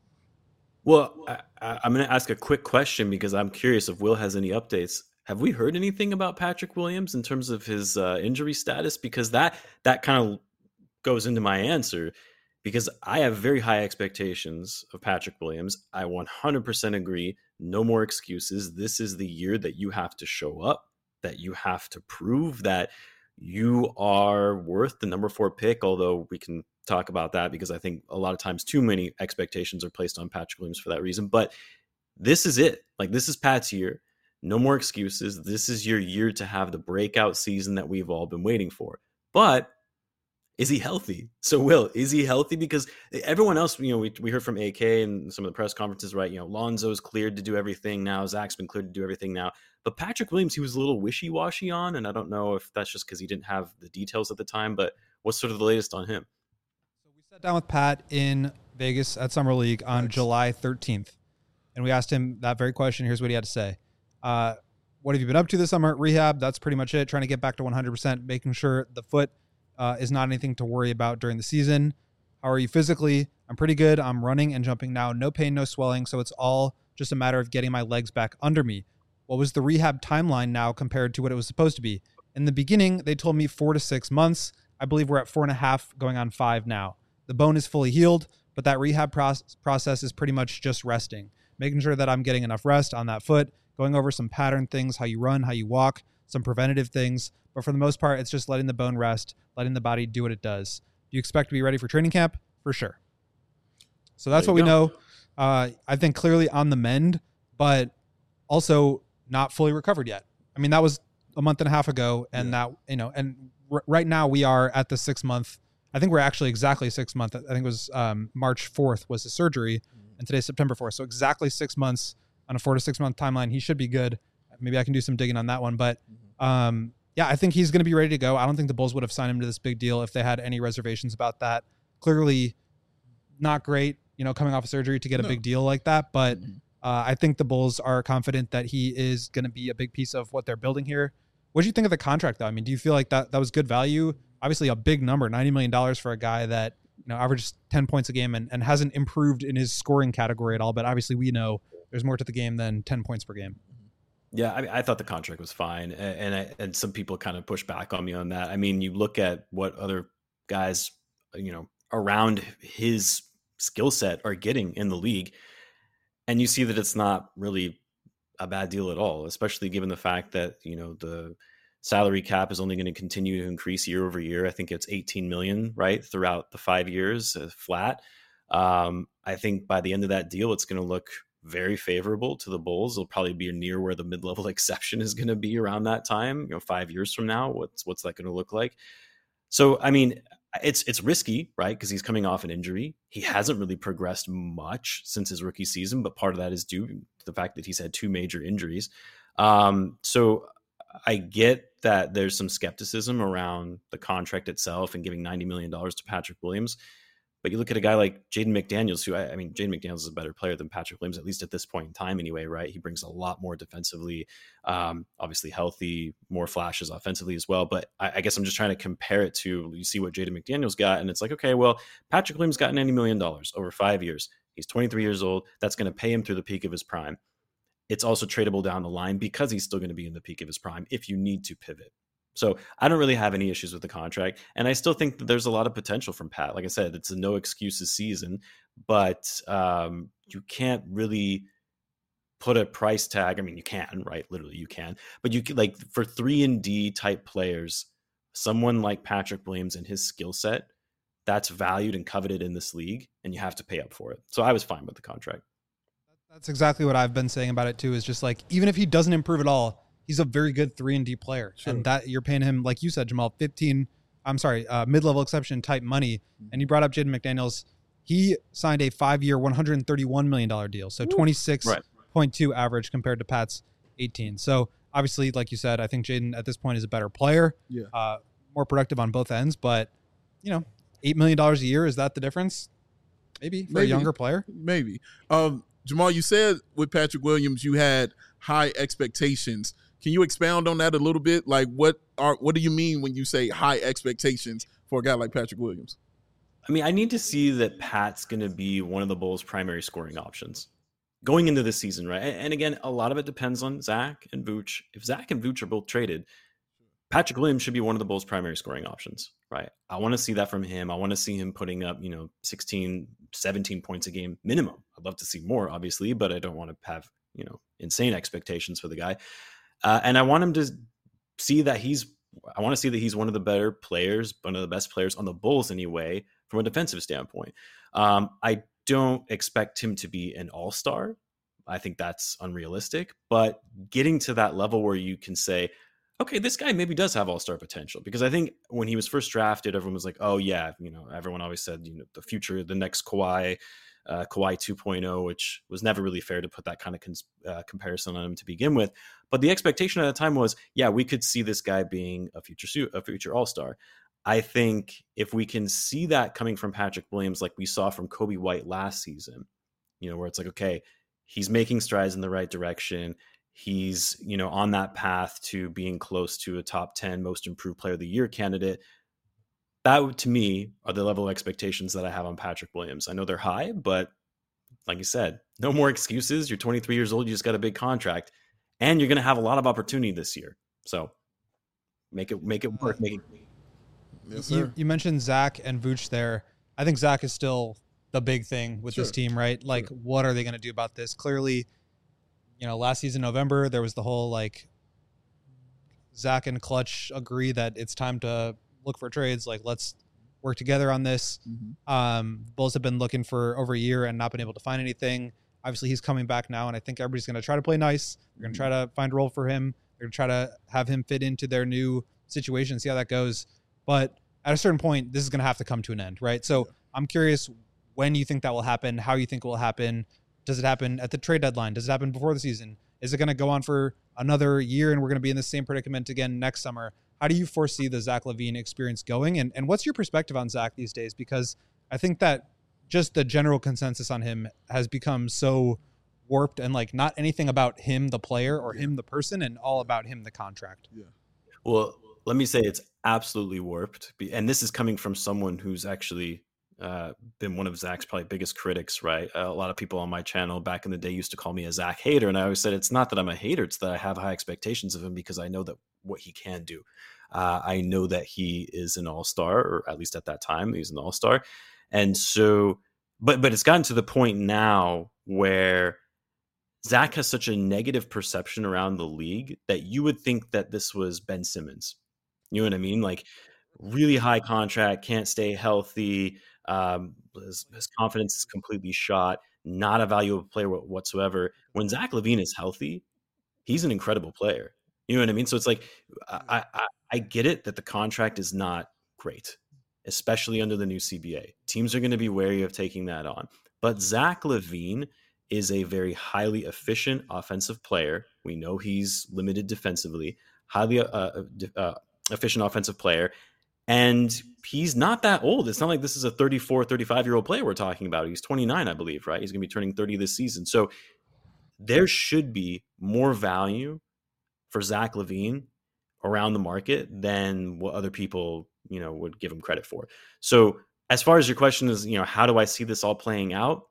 Well, I, I, I'm going to ask a quick question because I'm curious if Will has any updates. Have we heard anything about Patrick Williams in terms of his uh, injury status? Because that that kind of goes into my answer. because I have very high expectations of Patrick Williams. I one hundred percent agree. No more excuses. This is the year that you have to show up, that you have to prove that you are worth the number four pick, although we can talk about that because I think a lot of times too many expectations are placed on Patrick Williams for that reason. But this is it. Like, this is Pat's year. No more excuses. This is your year to have the breakout season that we've all been waiting for. But is he healthy? So, Will, is he healthy? Because everyone else, you know, we, we heard from A K and some of the press conferences, right? You know, Lonzo's cleared to do everything now. Zach's been cleared to do everything now. But Patrick Williams, he was a little wishy-washy on, and I don't know if that's just because he didn't have the details at the time, but what's sort of the latest on him? So we sat down with Pat in Vegas at Summer League on nice. July thirteenth, and we asked him that very question. Here's what he had to say. Uh, what have you been up to this summer? Rehab, that's pretty much it. Trying to get back to one hundred percent, making sure the foot uh, is not anything to worry about during the season. How are you physically? I'm pretty good. I'm running and jumping now. No pain, no swelling. So it's all just a matter of getting my legs back under me. What was the rehab timeline now compared to what it was supposed to be? In the beginning, they told me four to six months. I believe we're at four and a half, going on five now. The bone is fully healed, but that rehab process process is pretty much just resting, making sure that I'm getting enough rest on that foot, going over some pattern things, how you run, how you walk, some preventative things. But for the most part, it's just letting the bone rest, letting the body do what it does. Do you expect to be ready for training camp? For sure. So that's what we know. Uh, I think clearly on the mend, but also not fully recovered yet. I mean, that was a month and a half ago, and yeah. that, you know, and r- right now we are at the six month. I think we're actually exactly six months. I think it was um, March fourth was the surgery, mm-hmm. and today's September fourth. So exactly six months on a four to six month timeline. He should be good. Maybe I can do some digging on that one, but um, yeah, I think he's going to be ready to go. I don't think the Bulls would have signed him to this big deal if they had any reservations about that. Clearly not great, you know, coming off of surgery to get a no. big deal like that, but mm-hmm. Uh, I think the Bulls are confident that he is going to be a big piece of what they're building here. What do you think of the contract, though? I mean, do you feel like that that was good value? Obviously, a big number, ninety million dollars for a guy that, you know, averages ten points a game and, and hasn't improved in his scoring category at all. But obviously, we know there's more to the game than ten points per game. Yeah, I, I thought the contract was fine, and and, I, and some people kind of push back on me on that. I mean, you look at what other guys, you know, around his skill set are getting in the league. And you see that it's not really a bad deal at all, especially given the fact that, you know, the salary cap is only going to continue to increase year over year. I think it's eighteen million, right, throughout the five years uh, flat. Um, I think by the end of that deal, it's going to look very favorable to the Bulls. It'll probably be near where the mid-level exception is going to be around that time, you know, five years from now. What's what's that going to look like? So, I mean, It's it's risky, right? Because he's coming off an injury. He hasn't really progressed much since his rookie season, but part of that is due to the fact that he's had two major injuries. Um, so I get that there's some skepticism around the contract itself and giving ninety million dollars to Patrick Williams. But you look at a guy like Jaden McDaniels, who I, I mean, Jaden McDaniels is a better player than Patrick Williams, at least at this point in time anyway, right? He brings a lot more defensively, um, obviously healthy, more flashes offensively as well. But I, I guess I'm just trying to compare it to, you see what Jaden McDaniels got, and it's like, okay, well, Patrick Williams got ninety million dollars over five years. He's twenty-three years old. That's going to pay him through the peak of his prime. It's also tradable down the line because he's still going to be in the peak of his prime if you need to pivot. So I don't really have any issues with the contract. And I still think that there's a lot of potential from Pat. Like I said, it's a no excuses season, but um, you can't really put a price tag. I mean, you can, right? Literally you can, but you can, like, for three and D type players, someone like Patrick Williams and his skill set, that's valued and coveted in this league, and you have to pay up for it. So I was fine with the contract. That's exactly what I've been saying about it too, is just like, even if he doesn't improve at all, he's a very good three and D player. Sure. And that you're paying him, like you said, Jamal, fifteen, I'm sorry, uh, mid-level exception type money. Mm-hmm. And you brought up Jaden McDaniels. He signed a five-year, one hundred thirty-one million dollars deal. So twenty-six point two right. average compared to Pat's eighteen. So obviously, like you said, I think Jaden at this point is a better player, yeah, uh, more productive on both ends. But, you know, eight million dollars a year, is that the difference? Maybe for Maybe. a younger player. Maybe. Um, Jamal, you said with Patrick Williams, you had high expectations. Can you expound on that a little bit? Like, what are what do you mean when you say high expectations for a guy like Patrick Williams? I mean, I need to see that Pat's going to be one of the Bulls' primary scoring options going into this season, right? And again, a lot of it depends on Zach and Vooch. If Zach and Vooch are both traded, Patrick Williams should be one of the Bulls' primary scoring options, right? I want to see that from him. I want to see him putting up, you know, sixteen, seventeen points a game minimum. I'd love to see more, obviously, but I don't want to have, you know, insane expectations for the guy. Uh, and I want him to see that he's, I want to see that he's one of the better players, one of the best players on the Bulls anyway, from a defensive standpoint. Um, I don't expect him to be an all-star. I think that's unrealistic, but getting to that level where you can say, okay, this guy maybe does have all-star potential, because I think when he was first drafted, everyone was like, oh yeah, you know, everyone always said, you know, the future, the next Kawhi, uh, Kawhi two point oh, which was never really fair to put that kind of cons- uh, comparison on him to begin with. But the expectation at the time was, yeah, we could see this guy being a future suit, a future all-star. I think if we can see that coming from Patrick Williams, like we saw from Kobe White last season, you know, where it's like, okay, he's making strides in the right direction. He's, you know, on that path to being close to a top ten most improved player of the year candidate. That, to me, are the level of expectations that I have on Patrick Williams. I know they're high, but like you said, no more excuses. You're twenty-three years old. You just got a big contract, and you're going to have a lot of opportunity this year. So make it, make it work. Make it. Yes, sir. You, you mentioned Zach and Vooch there. I think Zach is still the big thing with Sure. this team, right? Like, Sure. what are they going to do about this? Clearly, you know, last season, November, there was the whole, like, Zach and Clutch agree that it's time to look for trades. Like, let's work together on this. Mm-hmm. Um, Bulls have been looking for over a year and not been able to find anything. Obviously, he's coming back now, and I think everybody's going to try to play nice. They're going to try to find a role for him. They're going to try to have him fit into their new situation, see how that goes. But at a certain point, this is going to have to come to an end, right? So Yeah. I'm curious when you think that will happen, how you think it will happen. Does it happen at the trade deadline? Does it happen before the season? Is it going to go on for another year and we're going to be in the same predicament again next summer? How do you foresee the Zach LaVine experience going? And and what's your perspective on Zach these days? Because I think that just the general consensus on him has become so warped and like not anything about him, the player, or him, the person, and all about him, the contract. Yeah. Well, let me say it's absolutely warped. Be- And this is coming from someone who's actually uh, been one of Zach's probably biggest critics, right? Uh, a lot of people on my channel back in the day used to call me a Zach hater. And I always said, it's not that I'm a hater, it's that I have high expectations of him because I know that what he can do. Uh, I know that he is an all-star, or at least at that time, he's an all-star. And so, but but it's gotten to the point now where Zach has such a negative perception around the league that you would think that this was Ben Simmons. You know what I mean? Like, really high contract, can't stay healthy. Um, his, his confidence is completely shot. Not a valuable player whatsoever. When Zach LaVine is healthy, he's an incredible player. You know what I mean? So it's like, I, I, I get it that the contract is not great, especially under the new C B A. Teams are going to be wary of taking that on. But Zach LaVine is a very highly efficient offensive player. We know he's limited defensively, highly uh, uh, efficient offensive player. And he's not that old. It's not like this is a thirty-four, thirty-five-year-old player we're talking about. He's twenty-nine, I believe, right? He's going to be turning thirty this season. So there should be more value for Zach LaVine around the market than what other people, you know, would give him credit for. So as far as your question is, you know, how do I see this all playing out?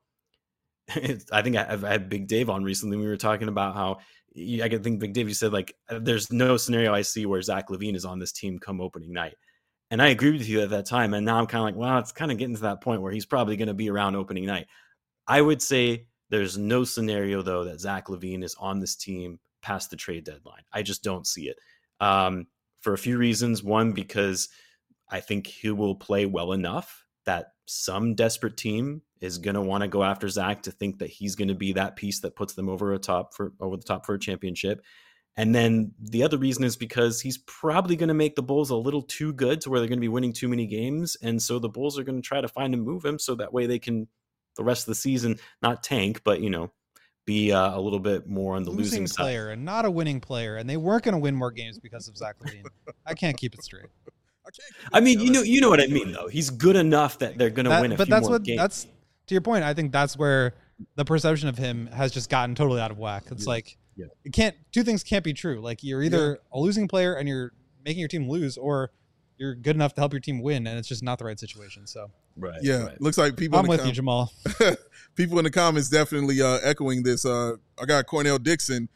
I think I, I had Big Dave on recently. We were talking about how I think Big Dave, you said like, there's no scenario I see where Zach LaVine is on this team come opening night. And I agreed with you at that time. And now I'm kind of like, well, it's kind of getting to that point where he's probably going to be around opening night. I would say there's no scenario, though, that Zach LaVine is on this team past the trade deadline. I just don't see it um, for a few reasons. One, because I think he will play well enough that some desperate team is going to want to go after Zach to think that he's going to be that piece that puts them over a top for over the top for a championship. And then the other reason is because he's probably going to make the Bulls a little too good to where they're going to be winning too many games. And so the Bulls are going to try to find and move him so that way they can, the rest of the season, not tank, but, you know, be uh, a little bit more on the losing, losing side. player and not a winning player. And they weren't going to win more games because of Zach LaVine. I can't keep it straight. I, can't I mean, you know, you know what I mean, though. He's good enough that they're going to That- win a but few that's more what games. that's to your point. I think that's where the perception of him has just gotten totally out of whack. It's Yes. like Yeah. it can't. Two things can't be true. Like you're either a losing player and you're making your team lose, or you're good enough to help your team win, and it's just not the right situation. So right. Yeah, right. looks like people. I'm in the with com- you, Jamal. people in the comments definitely uh, echoing this. Uh, I got Cornell Dixon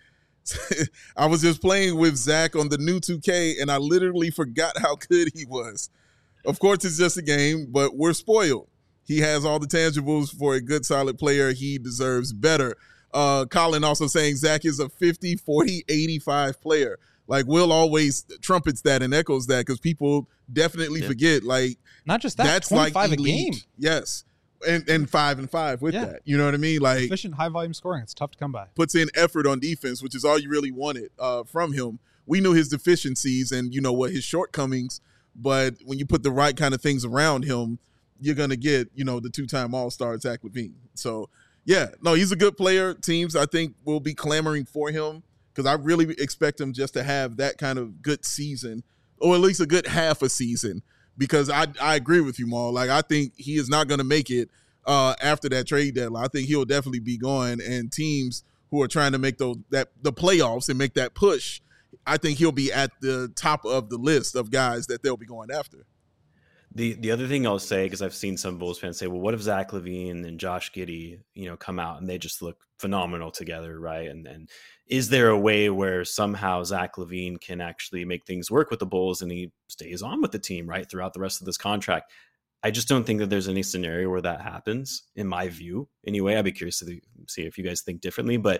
I was just playing with Zach on the new two K, and I literally forgot how good he was. Of course, it's just a game, but we're spoiled. He has all the tangibles for a good, solid player. He deserves better. Uh, Colin also saying Zach is a fifty, forty, eighty-five player. Like, Will always trumpets that and echoes that because people definitely yeah. forget. Like, not just that, that's twenty-five like elite. A game. Yes. And, and five and five with yeah. that. You know what I mean? Like, efficient, high volume scoring. It's tough to come by. Puts in effort on defense, which is all you really wanted uh, from him. We knew his deficiencies and, you know, what his shortcomings. But when you put the right kind of things around him, you're going to get, you know, the two-time All-Star Zach LaVine. So, yeah, no, he's a good player. Teams, I think, will be clamoring for him because I really expect him just to have that kind of good season or at least a good half a season because I, I agree with you, Maul. Like, I think he is not going to make it uh, after that trade deadline. I think he'll definitely be gone, and teams who are trying to make those that the playoffs and make that push, I think he'll be at the top of the list of guys that they'll be going after. The the other thing I'll say, because I've seen some Bulls fans say, well, what if Zach LaVine and Josh Giddey, you know, come out and they just look phenomenal together, right? And and is there a way where somehow Zach LaVine can actually make things work with the Bulls and he stays on with the team, right, throughout the rest of this contract? I just don't think that there's any scenario where that happens, in my view. Anyway, I'd be curious to see if you guys think differently. But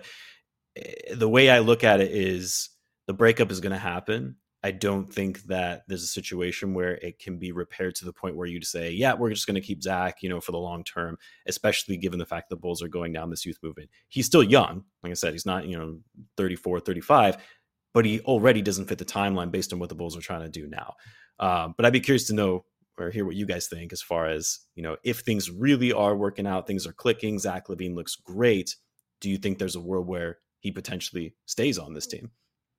the way I look at it is the breakup is going to happen. I don't think that there's a situation where it can be repaired to the point where you'd say, yeah, we're just going to keep Zach, you know, for the long term, especially given the fact the Bulls are going down this youth movement. He's still young. Like I said, he's not, you know, thirty-four, thirty-five, but he already doesn't fit the timeline based on what the Bulls are trying to do now. Um, but I'd be curious to know or hear what you guys think as far as, you know, if things really are working out, things are clicking, Zach LaVine looks great. Do you think there's a world where he potentially stays on this team?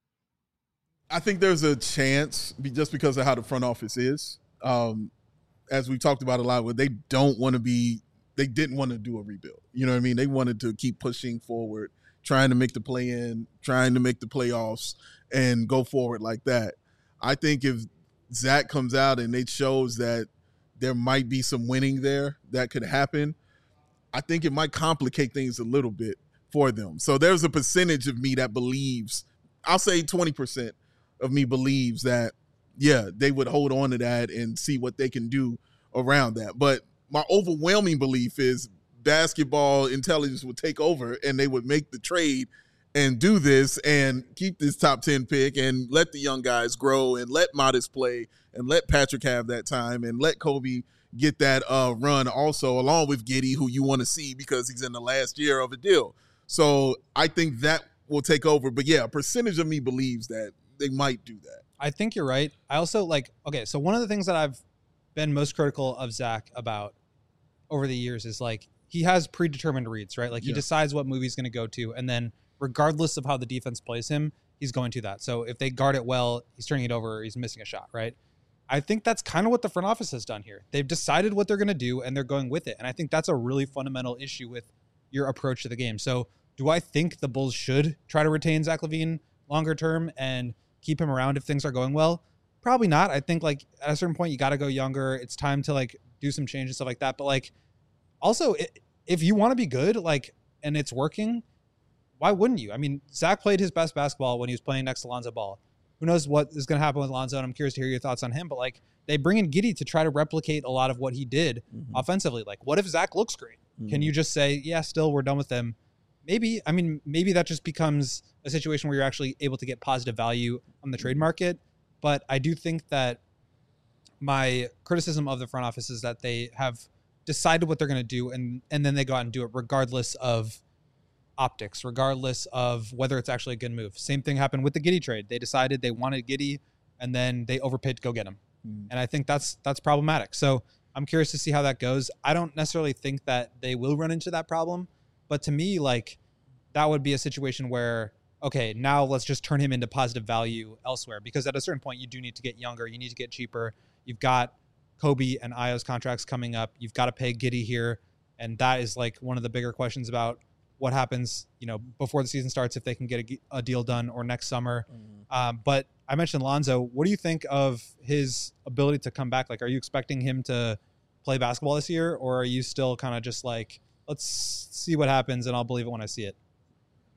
I think there's a chance just because of how the front office is. Um, as we talked about a lot, where they don't want to be, they didn't want to do a rebuild. You know what I mean? They wanted to keep pushing forward, trying to make the play in, trying to make the playoffs and go forward like that. I think if Zach comes out and it shows that there might be some winning there that could happen, I think it might complicate things a little bit for them. So there's a percentage of me that believes, I'll say twenty percent of me believes that, yeah, they would hold on to that and see what they can do around that. But my overwhelming belief is basketball intelligence would take over and they would make the trade and do this and keep this top ten pick and let the young guys grow and let Modest play and let Patrick have that time and let Kobe get that uh, run also along with Giddey, who you want to see because he's in the last year of a deal. So I think that will take over. But, yeah, a percentage of me believes that they might do that. I think you're right. I also like, okay, so one of the things that I've been most critical of Zach about over the years is like he has predetermined reads, right? Like he yeah. decides what movie he's going to go to. And then regardless of how the defense plays him, he's going to that. So if they guard it well, he's turning it over, or he's missing a shot, right? I think that's kind of what the front office has done here. They've decided what they're going to do and they're going with it. And I think that's a really fundamental issue with your approach to the game. So do I think the Bulls should try to retain Zach LaVine longer term and keep him around if things are going well? Probably not. I think like at a certain point you got to go younger. It's time to like do some change and stuff like that. But like also if you want to be good, like, and it's working, why wouldn't you? I mean, Zach played his best basketball when he was playing next to Lonzo Ball. Who knows what is going to happen with Lonzo? And I'm curious to hear your thoughts on him. But like they bring in Giddey to try to replicate a lot of what he did mm-hmm. offensively. Like what if Zach looks great? Mm-hmm. Can you just say, yeah, still we're done with him? Maybe, I mean, maybe that just becomes a situation where you're actually able to get positive value on the trade market. But I do think that my criticism of the front office is that they have decided what they're going to do, and, and then they go out and do it regardless of optics, regardless of whether it's actually a good move. Same thing happened with the Giddey trade. They decided they wanted Giddey, and then they overpaid to go get him. Mm. And I think that's that's problematic. So I'm curious to see how that goes. I don't necessarily think that they will run into that problem. But to me, like, that would be a situation where, okay, now let's just turn him into positive value elsewhere. Because at a certain point, you do need to get younger. You need to get cheaper. You've got Kobe and Ayo's contracts coming up. You've got to pay Giddey here. And that is, like, one of the bigger questions about what happens, you know, before the season starts, if they can get a, a deal done or next summer. Mm-hmm. Um, but I mentioned Lonzo. What do you think of his ability to come back? Like, are you expecting him to play basketball this year? Or are you still kind of just like, let's see what happens and I'll believe it when I see it?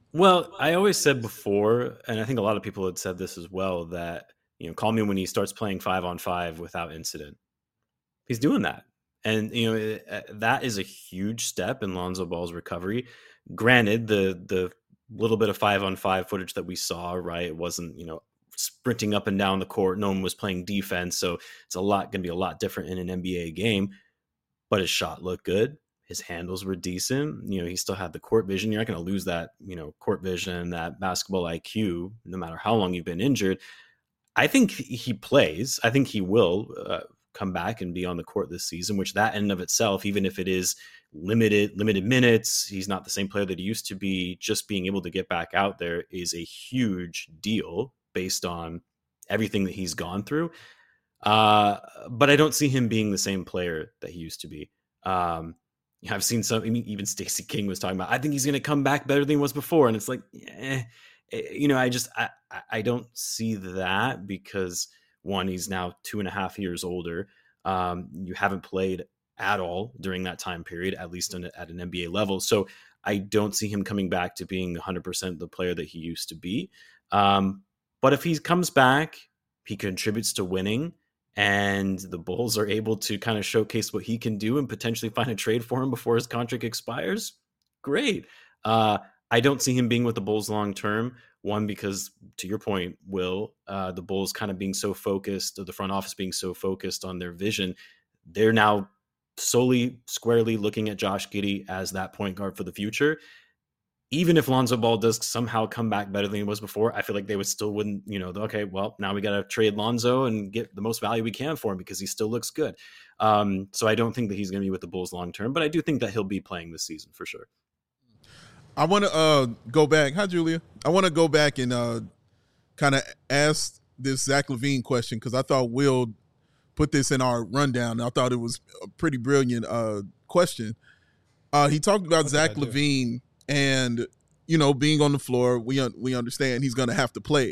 Well, I always said before, and I think a lot of people had said this as well, that, you know, call me when he starts playing five on five without incident. He's doing that. And, you know, it, uh, that is a huge step in Lonzo Ball's recovery. Granted, the the little bit of five on five footage that we saw, right, it wasn't, you know, sprinting up and down the court. No one was playing defense. So it's a lot going to be a lot different in an N B A game. But his shot looked good. His handles were decent. You know, he still had the court vision. You're not going to lose that, you know, court vision, that basketball I Q, no matter how long you've been injured. I think he plays. I think he will uh, come back and be on the court this season, which that in and of itself, even if it is limited, limited minutes, he's not the same player that he used to be. Just being able to get back out there is a huge deal based on everything that he's gone through. Uh, but I don't see him being the same player that he used to be. Um, I've seen some, I mean, even Stacey King was talking about, I think he's going to come back better than he was before. And it's like, eh, you know, I just, I, I don't see that because one, he's now two and a half years older. Um, you haven't played at all during that time period, at least in, at an N B A level. So I don't see him coming back to being one hundred percent the player that he used to be. Um, but if he comes back, he contributes to winning, and the Bulls are able to kind of showcase what he can do and potentially find a trade for him before his contract expires, great. Uh, I don't see him being with the Bulls long term. One, because to your point, Will, uh, the Bulls kind of being so focused, or the front office being so focused on their vision, they're now solely squarely looking at Josh Giddey as that point guard for the future. Even if Lonzo Ball does somehow come back better than he was before, I feel like they would still wouldn't, you know, okay, well, now we got to trade Lonzo and get the most value we can for him because he still looks good. Um, so I don't think that he's going to be with the Bulls long term, but I do think that he'll be playing this season for sure. I want to uh, go back. Hi, Julia. I want to go back and uh, kind of ask this Zach LaVine question because I thought Will put this in our rundown. I thought it was a pretty brilliant uh, question. Uh, he talked about what Zach LaVine and, you know, being on the floor. We un- we understand he's going to have to play.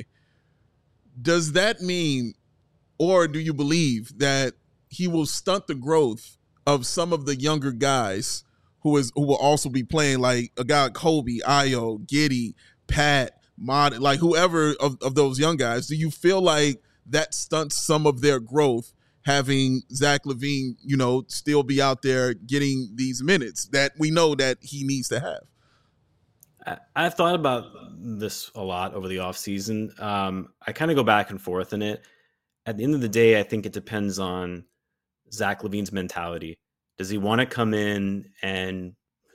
Does that mean, or do you believe that he will stunt the growth of some of the younger guys who is who will also be playing, like a guy like Kobe, Ayo, Giddey, Pat, Mod, like whoever of, of those young guys? Do you feel like that stunts some of their growth, having Zach LaVine, you know, still be out there getting these minutes that we know that he needs to have? I've thought about this a lot over the offseason. Um, I kind of go back and forth in it. At the end of the day, I think it depends on Zach LaVine's mentality. Does he want to come in and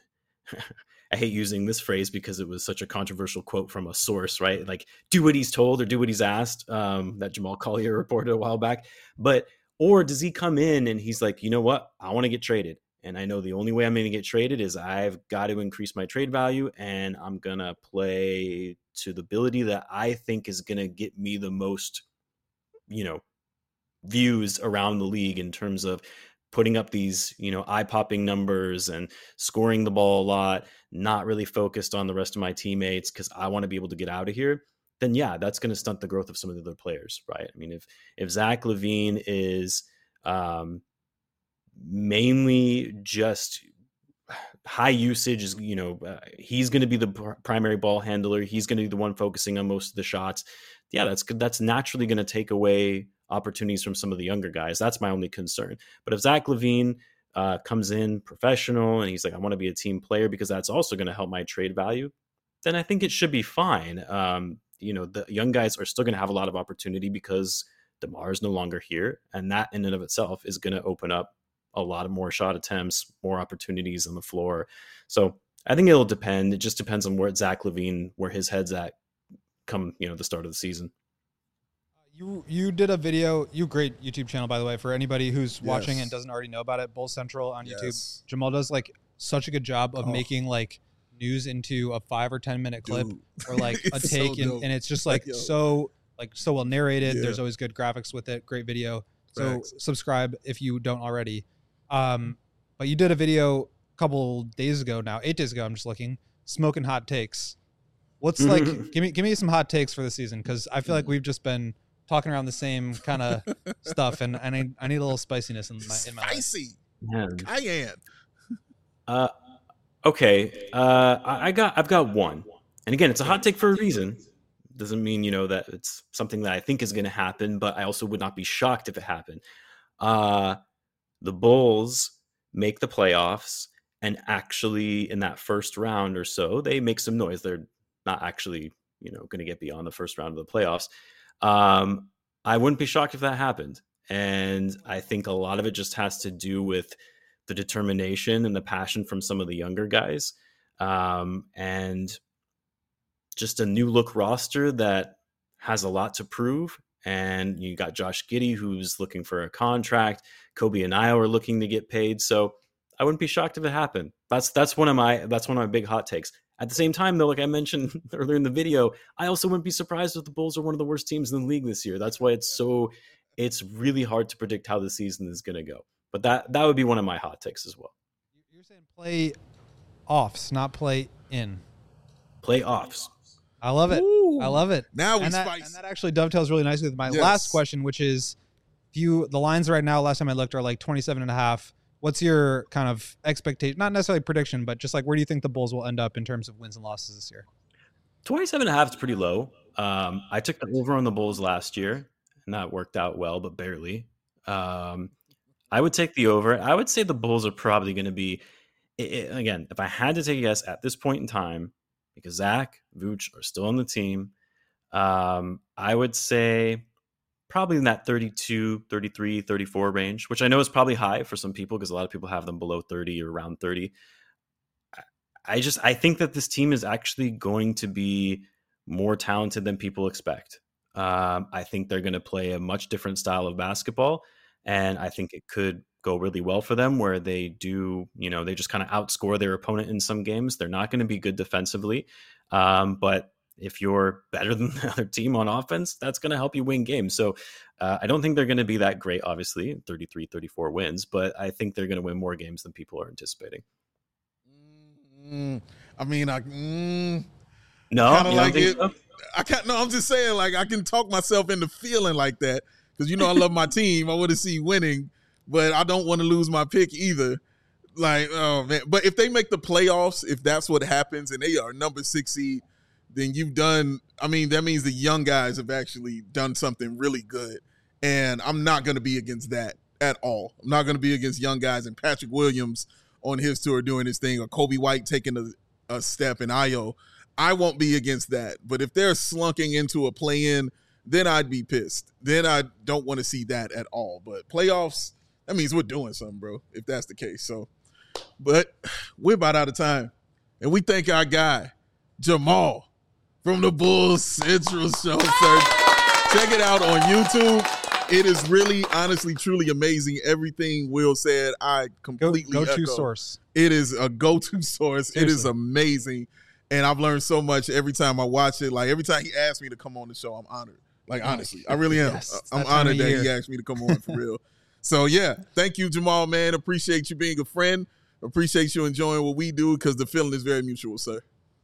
I hate using this phrase because it was such a controversial quote from a source, right? Like, do what he's told or do what he's asked, um, that Jamal Collier reported a while back. But, or does he come in and he's like, you know what? I want to get traded. And I know the only way I'm going to get traded is I've got to increase my trade value, and I'm going to play to the ability that I think is going to get me the most, you know, views around the league in terms of putting up these, you know, eye-popping numbers and scoring the ball a lot, not really focused on the rest of my teammates because I want to be able to get out of here, then yeah, that's going to stunt the growth of some of the other players, right? I mean, if if Zach LaVine is um, mainly just high usage, is, you know, uh, he's going to be the pr- primary ball handler, he's going to be the one focusing on most of the shots, yeah, that's that's naturally going to take away opportunities from some of the younger guys. That's my only concern. But if Zach LaVine uh, comes in professional and he's like, I want to be a team player because that's also going to help my trade value, then I think it should be fine. Um, you know, the young guys are still going to have a lot of opportunity because DeMar is no longer here. And that in and of itself is going to open up a lot of more shot attempts, more opportunities on the floor. So I think it'll depend. It just depends on where Zach LaVine, where his head's at come, you know, the start of the season. You you did a video, you great YouTube channel, by the way, for anybody who's Yes. watching and doesn't already know about it, Bull Central on Yes. YouTube. Jamal does like such a good job of Oh. making like news into a five or ten minute clip Dude. or like a It's so take, and, dope. and it's just like Yo. so like so well narrated. Yeah. There's always good graphics with it. Great video. So Facts. subscribe if you don't already. Um, but you did a video a couple days ago now, eight days ago. I'm just looking, smoking hot takes. What's like? give me give me some hot takes for the season, because I feel like we've just been talking around the same kind of stuff, and, and I, I need a little spiciness in my in my life. Spicy. Yeah. Cayenne. Uh, okay. Uh, I I got, I've got one. And again, it's a hot take for a reason. Doesn't mean, you know, that it's something that I think is going to happen, but I also would not be shocked if it happened. Uh, the Bulls make the playoffs, and actually in that first round or so, they make some noise. They're not actually, you know, going to get beyond the first round of the playoffs. Um, I wouldn't be shocked if that happened. And I think a lot of it just has to do with the determination and the passion from some of the younger guys. Um, and just a new look roster that has a lot to prove. And you got Josh Giddey, who's looking for a contract. Kobe and Ayo are looking to get paid. So I wouldn't be shocked if it happened. That's that's one of my that's one of my big hot takes. At the same time, though, like I mentioned earlier in the video, I also wouldn't be surprised if the Bulls are one of the worst teams in the league this year. That's why it's so it's really hard to predict how the season is going to go. But that that would be one of my hot takes as well. You're saying play offs, not play in. Playoffs. I love it. Ooh. I love it. Now we and that, spice. and that actually dovetails really nicely with my Yes. last question, which is, if you the lines right now, last time I looked, are like twenty-seven and a half. What's your kind of expectation? Not necessarily prediction, but just like where do you think the Bulls will end up in terms of wins and losses this year? twenty-seven and a half is pretty low. Um, I took the over on the Bulls last year, and that worked out well, but barely. Um, I would take the over. I would say the Bulls are probably going to be, it, it, again, if I had to take a guess at this point in time, because Zach, Vooch are still on the team, um, I would say probably in that thirty-two, thirty-three, thirty-four range, which I know is probably high for some people because a lot of people have them below thirty or around thirty. I just, I think that this team is actually going to be more talented than people expect. Um, I think they're going to play a much different style of basketball, and I think it could go really well for them where they do, you know, they just kind of outscore their opponent in some games. They're not going to be good defensively, um, but if you're better than the other team on offense, that's going to help you win games. So uh, I don't think they're going to be that great, obviously, thirty-three, thirty-four wins, but I think they're going to win more games than people are anticipating. Mm, I mean, I mm, No, kind of you don't like think it. so? I can't. No, I'm just saying, like I can talk myself into feeling like that because you know I love my team. I want to see winning, but I don't want to lose my pick either. Like, oh man! But if they make the playoffs, if that's what happens, and they are number six seed, then you've done. I mean, that means the young guys have actually done something really good, and I'm not going to be against that at all. I'm not going to be against young guys and Patrick Williams on his tour doing his thing, or Kobe White taking a, a step in Ayo. I won't be against that. But if they're slunking into a play-in, then I'd be pissed. Then I don't want to see that at all. But playoffs, that means we're doing something, bro, if that's the case. So, but we're about out of time. And we thank our guy, Jamal, from the Bulls Central Show, sir. Check it out on YouTube. It is really, honestly, truly amazing. Everything Will said, I completely Go, go-to echo. source. It is a go-to source. Seriously. It is amazing. And I've learned so much every time I watch it. Like, every time he asks me to come on the show, I'm honored. Like, honestly, I really am. Yes, it's I'm that time honored of that year. he asked me to come on for real. So, yeah, thank you, Jamal, man. Appreciate you being a friend. Appreciate you enjoying what we do because the feeling is very mutual, sir.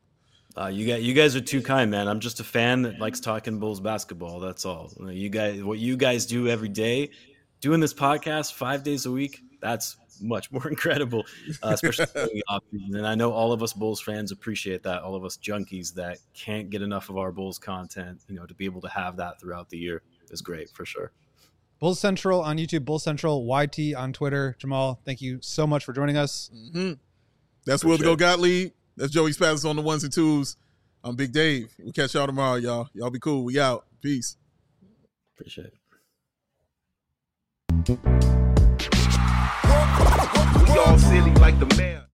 Uh, you guys, you guys are too kind, man. I'm just a fan that likes talking Bulls basketball. That's all. You guys, what you guys do every day, doing this podcast five days a week, that's much more incredible, uh, especially during the offseason. And I know all of us Bulls fans appreciate that. All of us junkies that can't get enough of our Bulls content, you know, to be able to have that throughout the year is great for sure. Bulls Central on YouTube, Bulls Central, Y T on Twitter. Jamal, thank you so much for joining us. Mm-hmm. That's Will to Go Gottlieb. That's Joey Spazzes on the ones and twos. I'm Big Dave. We'll catch y'all tomorrow, y'all. Y'all be cool. We out. Peace. Appreciate it. We all silly like the man.